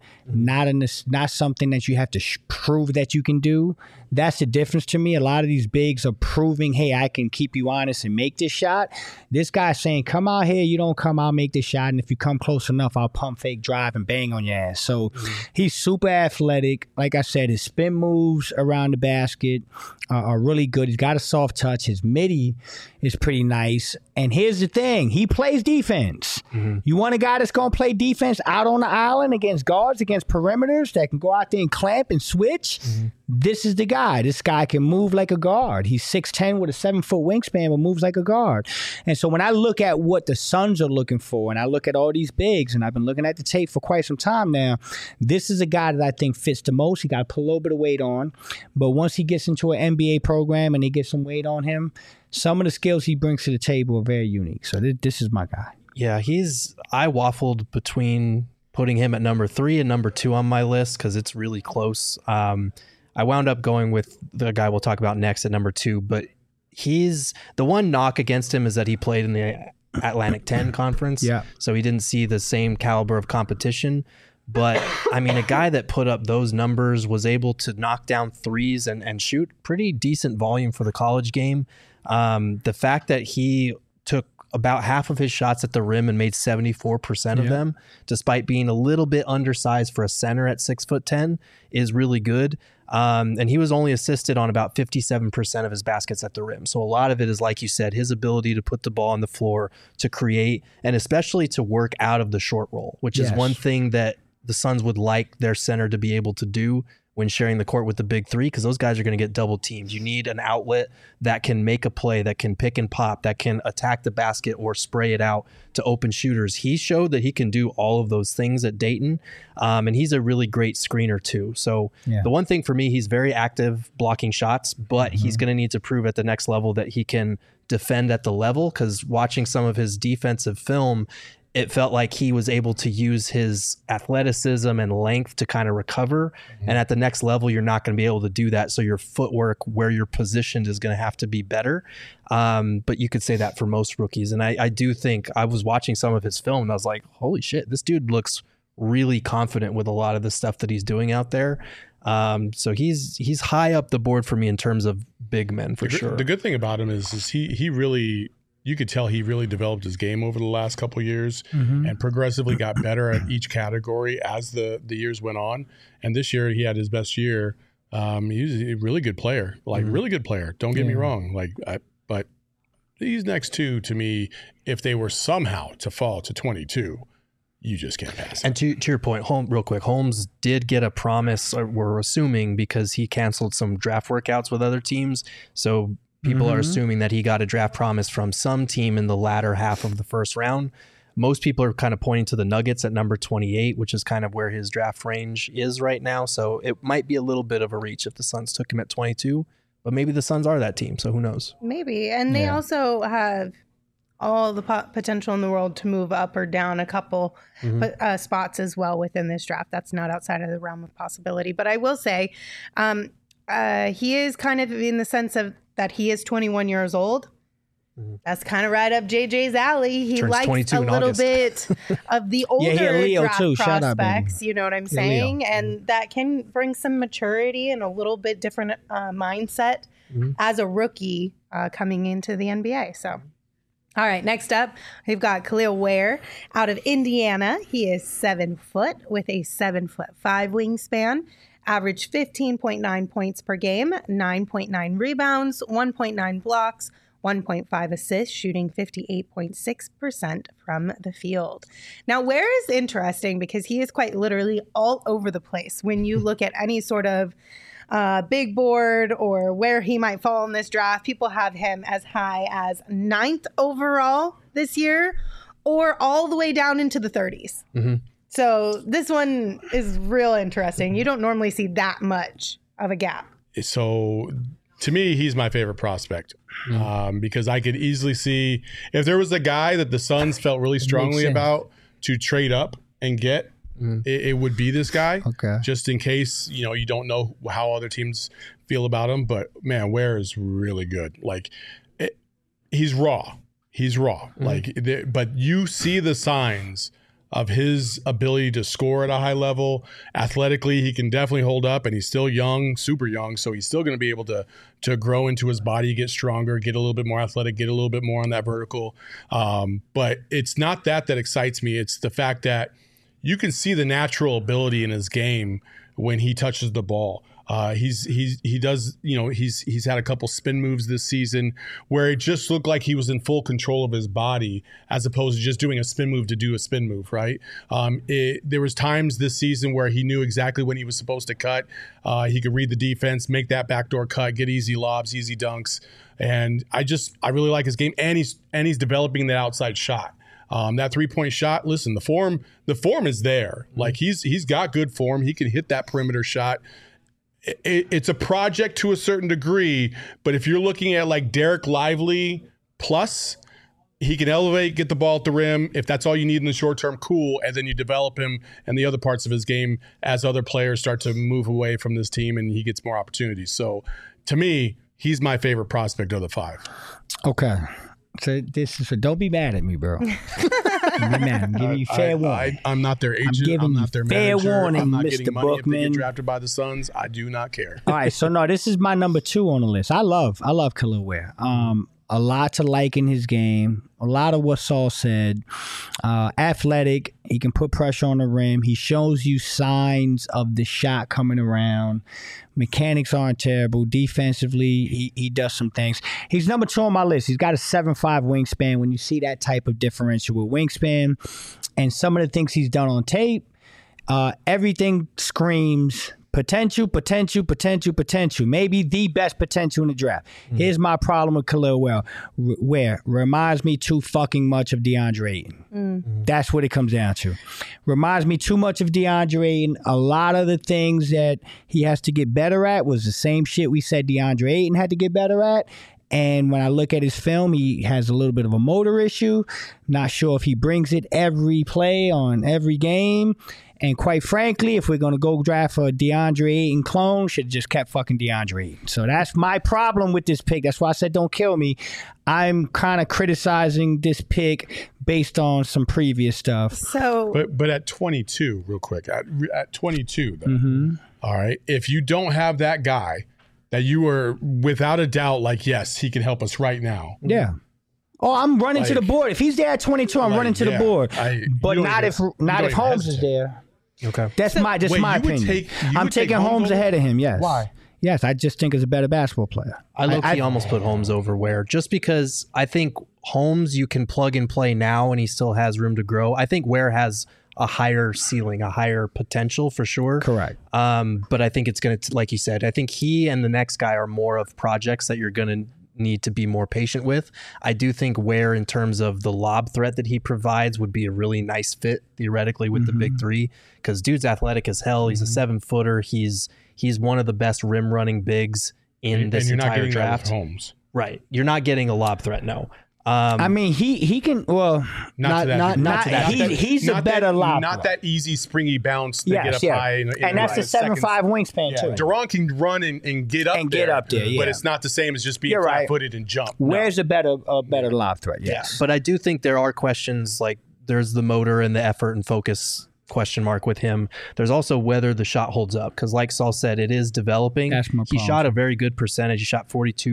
not something that you have to prove that you can do. That's the difference to me. A lot of these bigs are proving, hey, I can keep you honest and make this shot. This guy's saying, come out here. You don't come, I'll make this shot. And if you come close enough, I'll pump fake drive and bang on your ass. So he's super athletic. Like I said, his spin moves around the basket are really good. He's got a soft touch. His midi is pretty nice. And here's the thing. He plays defense. You want a guy that's going to play defense out on the island against guards, against perimeters that can go out there and clamp and switch? This is the guy. This guy can move like a guard. He's 6'10" with a 7-foot wingspan, but moves like a guard. And so when I look at what the Suns are looking for, and I look at all these bigs, and I've been looking at the tape for quite some time now, this is a guy that I think fits the most. He got to put a little bit of weight on. But once he gets into an NBA program and they get some weight on him, some of the skills he brings to the table are very unique. So this is my guy. Yeah, I waffled between putting him at number 3 and number 2 on my list because it's really close. I wound up going with the guy we'll talk about next at number 2, but he's the one knock against him is that he played in the Atlantic 10 conference. Yeah. So he didn't see the same caliber of competition. But I mean, a guy that put up those numbers was able to knock down threes and shoot pretty decent volume for the college game. The fact that he took about half of his shots at the rim and made 74% of them, despite being a little bit undersized for a center at 6'10", is really good. And he was only assisted on about 57% of his baskets at the rim. So a lot of it is, like you said, his ability to put the ball on the floor, to create, and especially to work out of the short roll, which is one thing that the Suns would like their center to be able to do when sharing the court with the big three, because those guys are going to get double teamed. You need an outlet that can make a play, that can pick and pop, that can attack the basket or spray it out to open shooters. He showed that he can do all of those things at Dayton, and he's a really great screener too. So the one thing for me, he's very active blocking shots, but he's going to need to prove at the next level that he can defend at the level, because watching some of his defensive film, it felt like he was able to use his athleticism and length to kind of recover. And at the next level, you're not going to be able to do that. So your footwork, where you're positioned, is going to have to be better. But you could say that for most rookies. And I do think, I was watching some of his film and I was like, holy shit, this dude looks really confident with a lot of the stuff that he's doing out there. So he's high up the board for me in terms of big men, for sure. The good thing about him is he really you could tell he really developed his game over the last couple of years and progressively got better at each category as the years went on. And this year he had his best year. He was a really good player, really good player. Don't get me wrong. But these next two, to me, if they were somehow to fall to 22, you just can't pass it. And to your point, real quick, Holmes did get a promise, we're assuming, because he canceled some draft workouts with other teams. So people are assuming that he got a draft promise from some team in the latter half of the first round. Most people are kind of pointing to the Nuggets at number 28, which is kind of where his draft range is right now. So it might be a little bit of a reach if the Suns took him at 22, but maybe the Suns are that team. So who knows? Maybe. And they also have all the potential in the world to move up or down a couple spots as well within this draft. That's not outside of the realm of possibility. But I will say he is kind of in the sense of that he is 21 years old. That's kind of right up JJ's alley. He Turns likes a little bit of the older Leo draft too. prospects. You know what I'm saying? And that can bring some maturity and a little bit different mindset as a rookie coming into the NBA. So, all right, next up, we've got Khalil Ware out of Indiana. He is 7 foot with a 7'5" wingspan. Averaged 15.9 points per game, 9.9 rebounds, 1.9 blocks, 1.5 assists, shooting 58.6% from the field. Now, Ware is interesting because he is quite literally all over the place. When you look at any sort of big board or where he might fall in this draft, people have him as high as 9th overall this year or all the way down into the 30s. So this one is real interesting. You don't normally see that much of a gap. So to me, he's my favorite prospect because I could easily see if there was a guy that the Suns felt really strongly about to trade up and get, it would be this guy. Okay. Just in case, you don't know how other teams feel about him. But man, Ware is really good. He's raw. He's raw. But you see the signs of his ability to score at a high level. Athletically, he can definitely hold up, and he's still young, super young, so he's still going to be able to grow into his body, get stronger, get a little bit more athletic, get a little bit more on that vertical. But it's not that excites me. It's the fact that you can see the natural ability in his game when he touches the ball. He does, he's had a couple spin moves this season where it just looked like he was in full control of his body as opposed to just doing a spin move to do a spin move, right? There was times this season where he knew exactly when he was supposed to cut. He could read the defense, make that backdoor cut, get easy lobs, easy dunks. And I really like his game, and he's developing that outside shot. That 3-point shot, listen, the form is there. Like he's got good form. He can hit that perimeter shot. It's a project to a certain degree, but if you're looking at like Derek Lively plus, he can elevate, get the ball at the rim. If that's all you need in the short term, cool. And then you develop him and the other parts of his game as other players start to move away from this team and he gets more opportunities. So to me, he's my favorite prospect of the 5. Okay. So don't be mad at me, bro. Don't be mad. I'm giving you fair warning. I'm not their agent. I'm not their fair manager. warning, I'm not Mr. getting money Bookman. if they get drafted by the Suns. I do not care. All right, so no, this is my number 2 on the list. I love Khalil Ware. A lot to like in his game. A lot of what Saul said. Athletic. He can put pressure on the rim. He shows you signs of the shot coming around. Mechanics aren't terrible. Defensively, he does some things. He's number 2 on my list. He's got a 7'5" wingspan. When you see that type of differential with wingspan and some of the things he's done on tape, everything screams potential. Maybe the best potential in the draft. Here's my problem with Khalil Ware. Reminds me too fucking much of DeAndre Ayton. That's what it comes down to. Reminds me too much of DeAndre Ayton. A lot of the things that he has to get better at was the same shit we said DeAndre Ayton had to get better at. And when I look at his film, he has a little bit of a motor issue. Not sure if he brings it every play on every game. And quite frankly, if we're going to go draft a DeAndre Ayton clone, should have just kept fucking DeAndre Ayton. So that's my problem with this pick. That's why I said don't kill me. I'm kind of criticizing this pick based on some previous stuff. So, but at 22, real quick, at 22, though, all right, if you don't have that guy that you are without a doubt like, yes, he can help us right now. Yeah. Oh, I'm running to the Like- board. If he's there at 22, I'm Like, running to the yeah, board. you But don't not even- if not you if don't even Holmes is hesitate. there. Okay. That's my Wait, my you would opinion. take- you I'm would take taking Holmes Holmes ahead of him. Yes. Why? Yes, I just think he's a better basketball player. I low-key almost put Holmes over Ware just because I think Holmes you can plug and play now and he still has room to grow. I think Ware has a higher ceiling, a higher potential for sure. Correct. But I think it's going to, like you said, I think he and the next guy are more of projects that you're going to need to be more patient with. I do think Ware, in terms of the lob threat that he provides, would be a really nice fit theoretically with the big three because dude's athletic as hell. He's a 7-footer. He's one of the best rim running bigs in this and you're not entire getting draft. that with Holmes. Right. You're not getting a lob threat, no. I mean, he can. Well, Not to that degree. not to that degree. He's a Not better that, lob. Not that easy springy bounce to Yes, get up yeah. high. And that's the 7'5" wingspan Yeah, too. Duran can run and get up And there. get up there, yeah. But it's not the same as just being You're right. flat-footed and jump. Where's a better lob threat? Yeah, Yes. but I do think there are questions like there's the motor and the effort and focus question mark with him. There's also whether the shot holds up because like Saul said, it is developing. That's my He problem. shot a very good percentage. He shot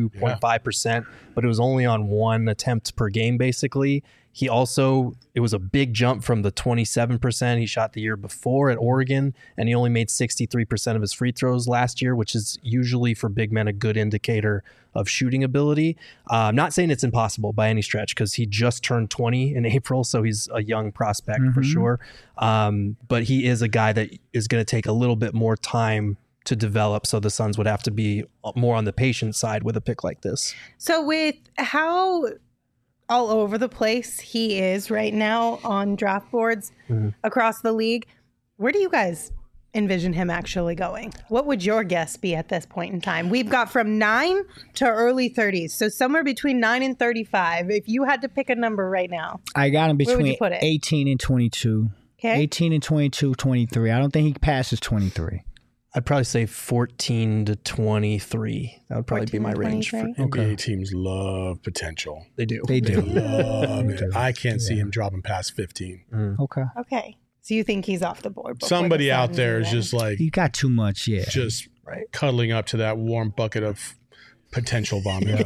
42.5%, but it was only on one attempt per game basically. He also, it was a big jump from the 27% he shot the year before at Oregon, and he only made 63% of his free throws last year, which is usually for big men a good indicator of shooting ability. I'm not saying it's impossible by any stretch because he just turned 20 in April, so he's a young prospect for sure. But he is a guy that is going to take a little bit more time to develop, so the Suns would have to be more on the patient side with a pick like this. So with how all over the place he is right now on draft boards across the league, where do you guys envision him actually going? What would your guess be at this point in time? We've got from 9 to early 30s, so somewhere between 9 and 35. If you had to pick a number right now, I got him Where would between you put it? 18 and 22. okay? 18 and 22, 23. I don't think he passes 23. I'd probably say 14 to 23. That would probably be 14 my to range. 23? NBA teams love potential. They do. They do. Love it. I can't see him dropping past 15. Okay. Okay. So you think he's off the board? before Somebody the out Suns there is even? just like He got too much, yeah. just Right. cuddling up to that warm bucket of potential vomit.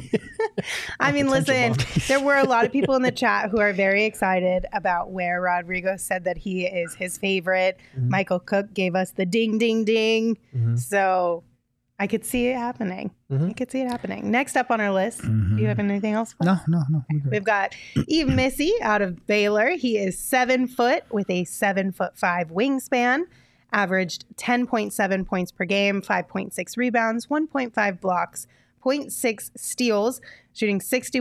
I mean, listen, there were a lot of people in the chat who are very excited about where Rodrigo said that he is his favorite. Michael Cook gave us the ding, ding, ding. So I could see it happening. I could see it happening. Next up on our list, do you have anything else? No. we're good. We've got Eve Missy out of Baylor. He is 7 foot with a 7'5" wingspan, averaged 10.7 points per game, 5.6 rebounds, 1.5 blocks, 0.6 steals, shooting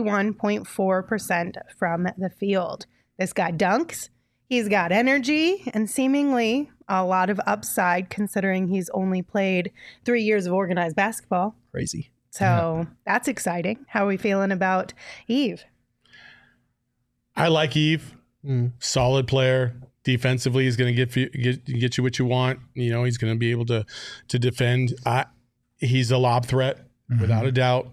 61.4% from the field. This guy dunks. He's got energy and seemingly a lot of upside considering he's only played 3 years of organized basketball. Crazy. So that's exciting. How are we feeling about Eve? I like Eve. Solid player. Defensively, he's going to get you what you want. You know, he's going to be able to defend. He's a lob threat without a doubt.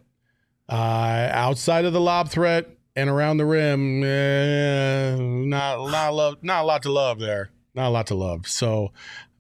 Outside of the lob threat and around the rim, not a lot to love there. Not a lot to love. So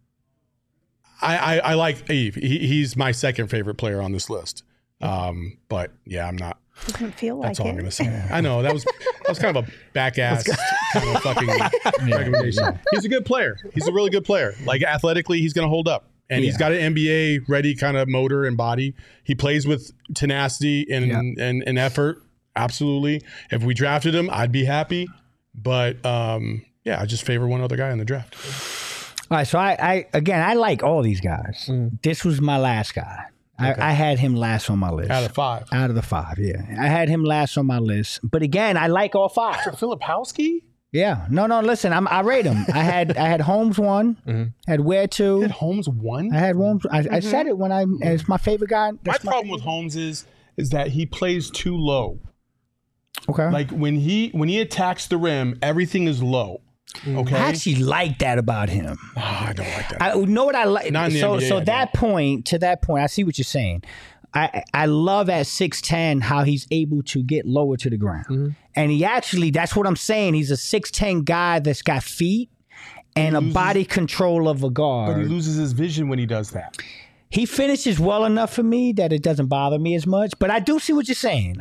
I like Eve. He's my second favorite player on this list. But yeah, I'm not. Doesn't feel like That's all it. I'm gonna say. I know that was kind of a back ass kind of fucking recommendation. He's a good player. He's a really good player. Like athletically, he's gonna hold up, and he's got an NBA ready kind of motor and body. He plays with tenacity and effort. Absolutely. If we drafted him, I'd be happy. But I just favor one other guy in the draft. All right, so I like all these guys. This was my last guy. I had him last on my list. Out of 5. Out of the 5, yeah. I had him last on my list. But again, I like all 5. Filipowski? Yeah. No, listen, I rate him. I had Holmes 1, had Ware 2. Had Holmes 1? I had Holmes. I said it when it's my favorite guy. My problem with Holmes is that he plays too low. Okay. Like when he attacks the rim, everything is low. Okay. I actually like that about him. I don't like that. I know what I like. Not in the So NBA, so I that point, to that point, I see what you're saying. I love at 6'10" how he's able to get lower to the ground. And he actually, that's what I'm saying. He's a 6'10" guy that's got feet and a body control of a guard. But he loses his vision when he does that. he finishes well enough for me that it doesn't bother me as much. But I do see what you're saying.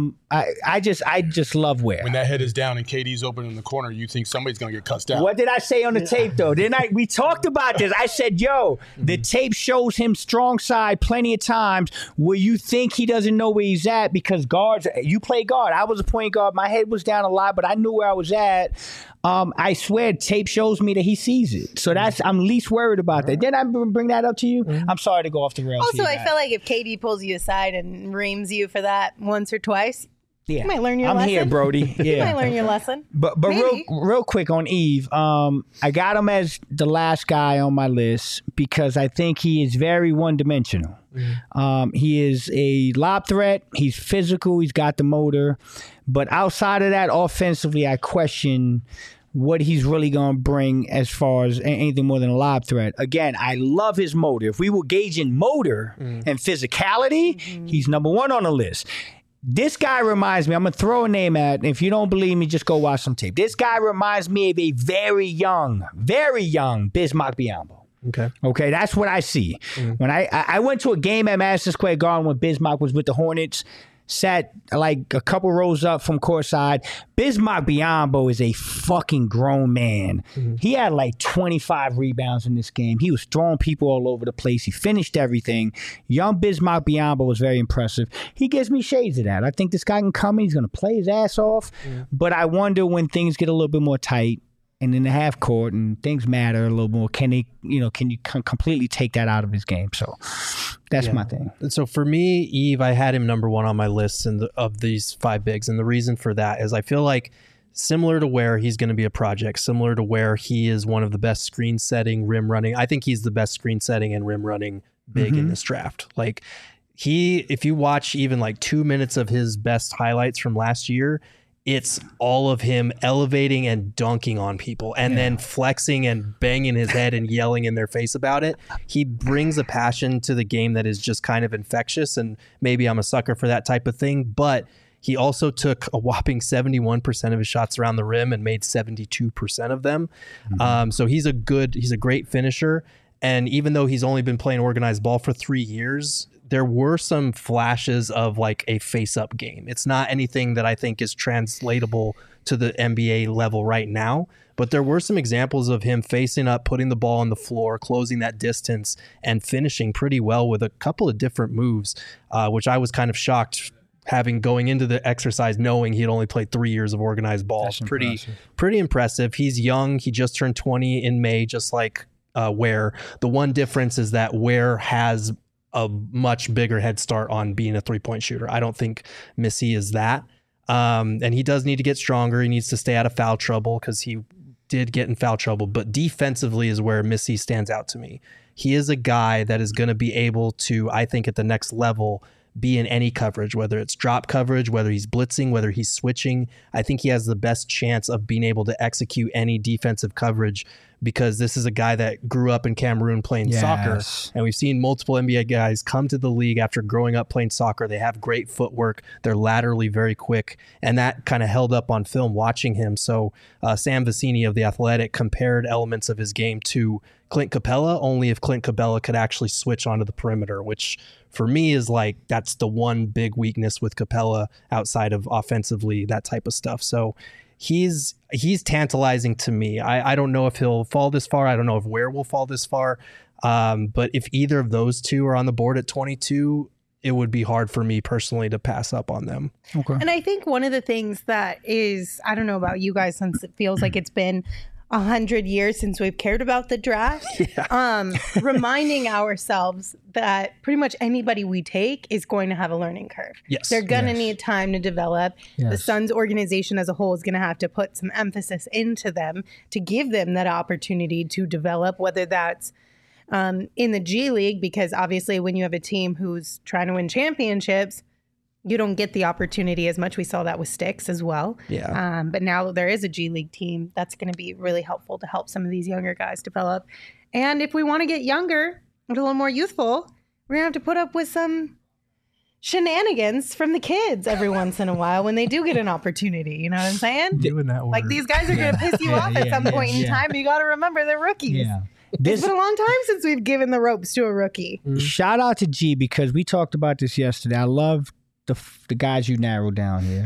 I just love Ware. When that head is down and KD's open in the corner, you think somebody's going to get cussed out. What did I say on the tape, though? We talked about this. I said, yo, the tape shows him strong side plenty of times where you think he doesn't know where he's at because guards, you play guard. I was a point guard. My head was down a lot, but I knew where I was at. I swear, tape shows me that he sees it. So I'm least worried about that. Did I bring that up to you? I'm sorry to go off the rails. Also, I feel like if KD pulls you aside and reams you for that once or twice, you might learn your lesson. I'm here, Brody. Yeah. You might learn your lesson. But real quick on Eve, I got him as the last guy on my list because I think he is very one-dimensional. He is a lob threat. He's physical. He's got the motor. But outside of that, offensively, I question what he's really going to bring as far as anything more than a lob threat. Again, I love his motor. If we were gauging motor and physicality, he's number one on the list. This guy reminds me, I'm going to throw a name at, if you don't believe me, just go watch some tape. This guy reminds me of a very young Bismack Biyombo. Okay, that's what I see. When I went to a game at Madison Square Garden when Bismack was with the Hornets, sat like a couple rows up from courtside. Bismack Biyombo is a fucking grown man. He had like 25 rebounds in this game. He was throwing people all over the place. He finished everything. Young Bismack Biyombo was very impressive. He gives me shades of that. I think this guy can come in. He's going to play his ass off. But I wonder when things get a little bit more tight and in the half court and things matter a little more, can you completely take that out of his game? So that's my thing. So for me, Eve, I had him number one on my list of these five bigs. And the reason for that is I feel like similar to where he's going to be a project, similar to where he is one of the best screen setting, rim running. I think he's the best screen setting and rim running big in this draft. Like if you watch even like 2 minutes of his best highlights from last year, it's all of him elevating and dunking on people and then flexing and banging his head and yelling in their face about it. He brings a passion to the game that is just kind of infectious, and maybe I'm a sucker for that type of thing, but he also took a whopping 71% of his shots around the rim and made 72% of them. So he's a great finisher. And even though he's only been playing organized ball for 3 years, there were some flashes of like a face-up game. It's not anything that I think is translatable to the NBA level right now, but there were some examples of him facing up, putting the ball on the floor, closing that distance, and finishing pretty well with a couple of different moves, which I was kind of shocked going into the exercise knowing he had only played 3 years of organized ball. Pretty impressive. He's young. He just turned 20 in May, just like Ware. The one difference is that Ware has a much bigger head start on being a three-point shooter. I don't think Missy is that. And he does need to get stronger. He needs to stay out of foul trouble because he did get in foul trouble. But defensively is where Missy stands out to me. He is a guy that is going to be able to, I think, at the next level, be in any coverage, whether it's drop coverage, whether he's blitzing, whether he's switching. I think he has the best chance of being able to execute any defensive coverage because this is a guy that grew up in Cameroon playing soccer. And we've seen multiple NBA guys come to the league after growing up playing soccer. They have great footwork. They're laterally very quick. And that kind of held up on film watching him. So Sam Vecini of The Athletic compared elements of his game to Clint Capella, only if Clint Capella could actually switch onto the perimeter, which for me is like, that's the one big weakness with Capella outside of offensively, that type of stuff. So he's tantalizing to me. I don't know if he'll fall this far. I don't know if Ware will fall this far. But if either of those two are on the board at 22, it would be hard for me personally to pass up on them. Okay. And I think one of the things that is, I don't know about you guys, since it feels like it's been 100 years since we've cared about the draft, reminding ourselves that pretty much anybody we take is going to have a learning curve. Yes. They're going to need time to develop. The Suns organization as a whole is going to have to put some emphasis into them to give them that opportunity to develop, whether that's in the G League, because obviously when you have a team who's trying to win championships, you don't get the opportunity as much. We saw that with Sticks as well. Yeah. But now there is a G League team that's going to be really helpful to help some of these younger guys develop. And if we want to get younger and a little more youthful, we're going to have to put up with some shenanigans from the kids every once in a while when they do get an opportunity. You know what I'm saying? Doing that word. Like these guys are going to piss you off at some point in time. You got to remember they're rookies. Yeah. It's been a long time since we've given the ropes to a rookie. Shout out to G because we talked about this yesterday. I love the guys you narrowed down here.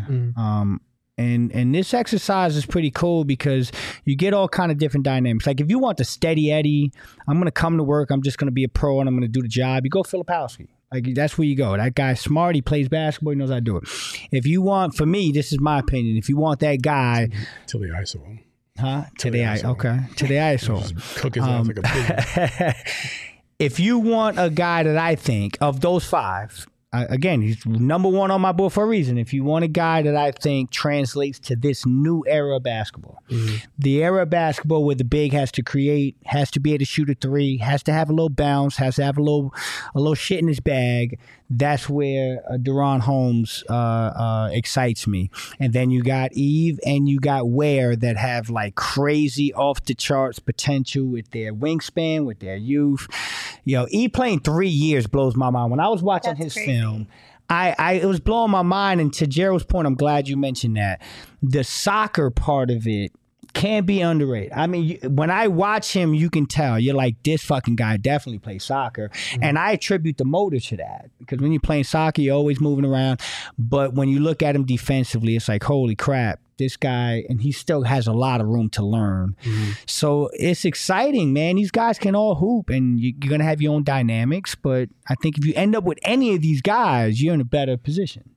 And this exercise is pretty cool because you get all kind of different dynamics. Like if you want the steady Eddie, I'm gonna come to work, I'm just gonna be a pro and I'm gonna do the job. You go Filipowski. Like that's where you go. That guy's smart. He plays basketball. He knows how to do it. If you want, for me, this is my opinion. If you want that guy, Till the ISO him. to the ISO. Okay, to the ISO. Just cook his ass like a pig. If you want a guy that I think of those five, again, he's number one on my board for a reason. If you want a guy that I think translates to this new era of basketball, the era of basketball where the big has to create, has to be able to shoot a three, has to have a little bounce, has to have a little shit in his bag. That's where Deron Holmes excites me. And then you got Eve and you got Ware that have like crazy off the charts potential with their wingspan, with their youth. Eve playing 3 years blows my mind. When I was watching his film, it was blowing my mind. And to Gerald's point, I'm glad you mentioned that. The soccer part of it can be underrated. I mean, when I watch him, you can tell. You're like, this fucking guy definitely plays soccer. And I attribute the motor to that. Because when you're playing soccer, you're always moving around. But when you look at him defensively, it's like, holy crap, this guy, and he still has a lot of room to learn. So it's exciting, man. These guys can all hoop, and you're going to have your own dynamics. But I think if you end up with any of these guys, you're in a better position.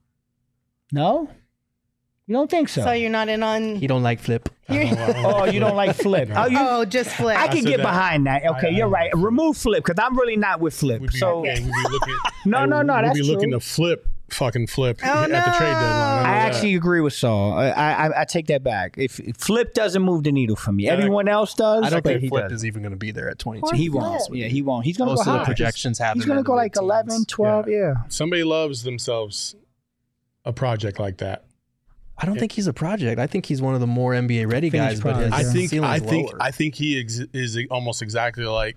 No? You don't think so? So you're not in on... He don't like Flip. Oh, you don't like Flip. Just Flip. I can get behind that. Okay, you're right. Remove Flip, because I'm really not with Flip. We'd be looking, No, that's We'd be looking to flip at the trade deadline. I actually agree with Saul. I take that back. If Flip doesn't move the needle for me, everyone else does. I don't think Flip is even going to be there at 22. He won't. Yeah, he won't. He's going to go Most of high. the projections have He's him going to in go the like mid-teens. 11, 12, yeah. Somebody loves themselves a project like that. I don't think he's a project. I think he's one of the more NBA ready guys. But his ceiling's lower. I think he is almost exactly like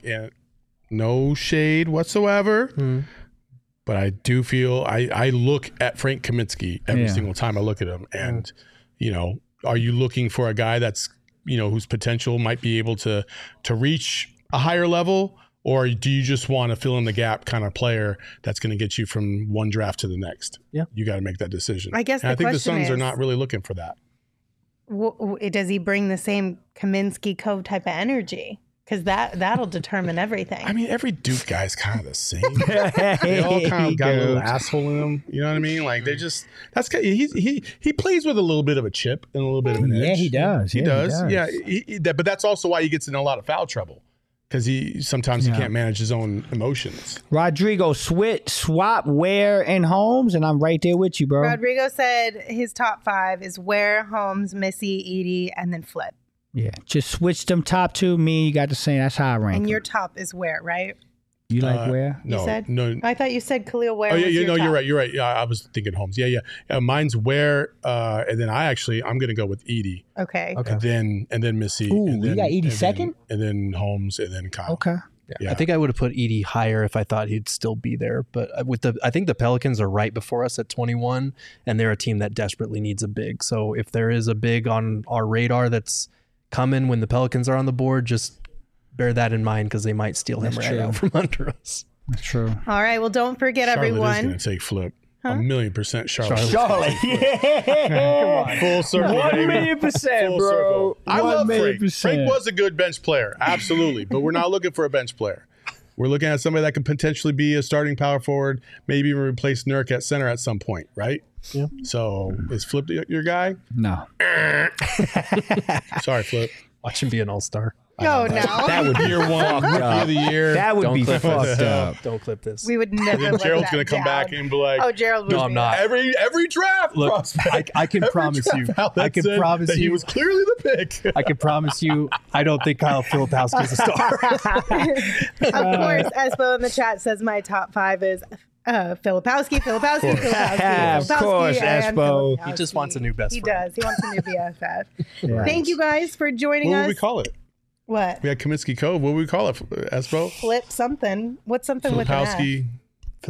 no shade whatsoever. But I do feel I look at Frank Kaminsky every single time I look at him, and are you looking for a guy that's whose potential might be able to reach a higher level? Or do you just want to fill in the gap kind of player that's going to get you from one draft to the next? Yeah. You got to make that decision. I guess I think the question Suns are is- not really looking for that. Does he bring the same Kaminsky Cove type of energy? Because that'll determine everything. I mean, every Duke guy's kind of the same. They all kind of got a little asshole in them. You know what I mean? Like they just he plays with a little bit of a chip and a little bit of an edge. Yeah, he does. He does. Yeah, but that's also why he gets in a lot of foul trouble. Because he can't manage his own emotions. Rodrigo, swap Ware and Holmes, and I'm right there with you, bro. Rodrigo said his top 5 is Ware, Holmes, Missy, Edie, and then Flip. Yeah, just switch them top two. Me, you got the same. That's how I rank. And them. your top is Ware, right? You like Ware? You said? No. I thought you said Khalil Ware. Oh yeah, was your top. you're right. Yeah, I was thinking Holmes. Yeah. Mine's Ware, and then I'm gonna go with Edie. Okay. And then Missy. Ooh, and you then, got Edie and then- second? and then Holmes, and then Kyle. Okay. Yeah. I think I would have put Edie higher if I thought he'd still be there. But I think the Pelicans are right before us at 21, and they're a team that desperately needs a big. So if there is a big on our radar that's coming when the Pelicans are on the board, just bear that in mind because they might steal him That's right true. out from under us. That's true. All right. Well, don't forget, Charlotte is everyone. gonna take Flip. 1,000,000% Charlotte. Charlotte. Yeah. Full circle, baby. 1,000,000%, Full bro. circle. I love Frank. 1,000,000%. Frank was a good bench player, absolutely. But we're not looking for a bench player. We're looking at somebody that could potentially be a starting power forward, maybe even replace Nurk at center at some point, right? Yeah. So is Flip your guy? No. Sorry, Flip. Watch him be an all-star. Oh, no. That would be year one, rookie of the year. That would Don't be clip fucked this. up. Don't clip this. We would never let Gerald's that gonna come down. back and be like, Oh, Gerald would No, I'm be- not. every draft Look, prospect. I can every promise draft you. outlet I can said promise that he you. was clearly the pick. I can promise you, I don't think Kyle Filipowski is a star. Of course, Espo in the chat says my top 5 is Filipowski, Of course, and Espo. Filipowski. He just wants a new best He friend. does. He wants a new BFF. Right. Thank you guys for joining What us. would we call it? What? We had Kaminsky Cove. What would we call it? Espo? Flip something. What's something with an F? Filipowski.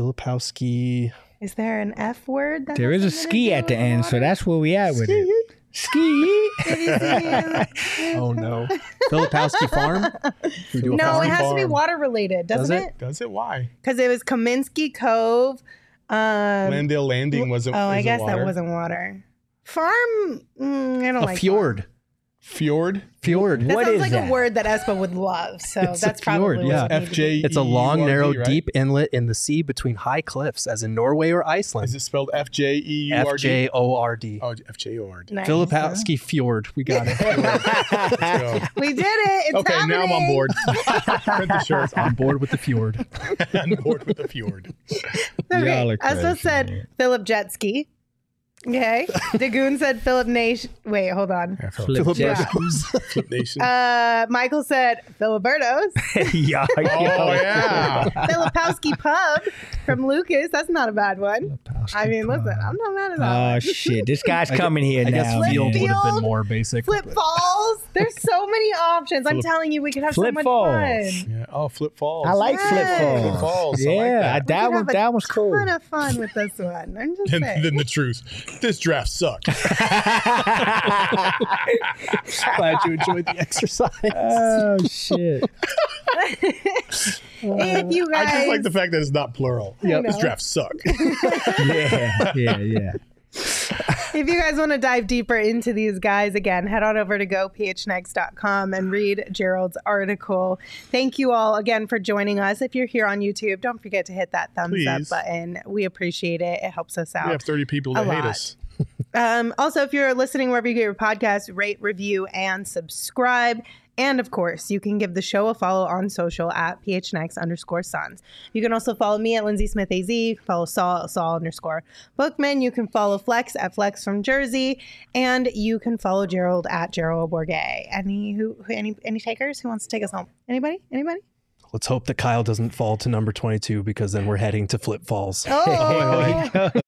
Filipowski. Is there an F word? That There has is a something to ski do at the with end, so water? that's where we at with it. Ski. Oh no. Filipowski Farm? We do a No, farm? it has to be farm. water related, Does doesn't it? it? Does it? Why? Because it was Kaminsky Cove. Landale Landing wasn't. Oh, I isn't guess water. that wasn't water. Farm. I don't A like fjord. Fjord. Fjord. That What sounds is like that? a word that Espa would love. So It's a that's probably fjord, what yeah. it would need to be. FJ. It's a long, narrow, right? deep inlet in the sea between high cliffs, as in Norway or Iceland. Is it spelled FJEURD? FJORD. Oh, FJORD. Nice. Filipowski Fjord. We got it. Let's go. We did it. It's Okay, now I'm on happening. board. Print the shirts. On board with the fjord. On board with the fjord. Okay. Y'all are Espa crazy, said man. Philip Jetski. Okay. Dagoon said Philip Nation. Wait, hold on. Flip Yeah. Flip Nation. Michael said Filiberto's. yeah, Oh yeah. Filipowski Pub from Lucas. That's not a bad one. I mean, listen, I'm not mad at that. Oh shit! This guy's coming here I guess now. field man. would have been Field. more basic. Flip Falls. There's so many options. I'm telling you, we could have so Flip much Falls. fun. Yeah. Oh, Flip Falls. I like Yes. Flip Falls. Flip Falls. I like Yeah, that. We could have a that was cool. ton of fun with this one. I'm just And saying. then the truth. This draft sucked. Glad you enjoyed the exercise. Oh shit! If you guys, I just like the fact that it's not plural. Yep. This draft sucked. Yeah. if you guys want to dive deeper into these guys, again, head on over to gophnx.com and read Gerald's article. Thank you all again for joining us. If you're here on YouTube, don't forget to hit that thumbs up Please. button. We appreciate it. It helps us out. We have 30 people that A hate lot. us. Also, if you're listening wherever you get your podcast, rate, review, and subscribe. And of course, you can give the show a follow on social at PHNX_Sons. You can also follow me at Lindsay Smith AZ. You can follow Saul_Bookman. You can follow Flex at Flex from Jersey. And you can follow Gerald at Gerald Bourget. Any takers? Who wants to take us home? Anybody? Let's hope that Kyle doesn't fall to number 22 because then we're heading to Flip Falls. Oh,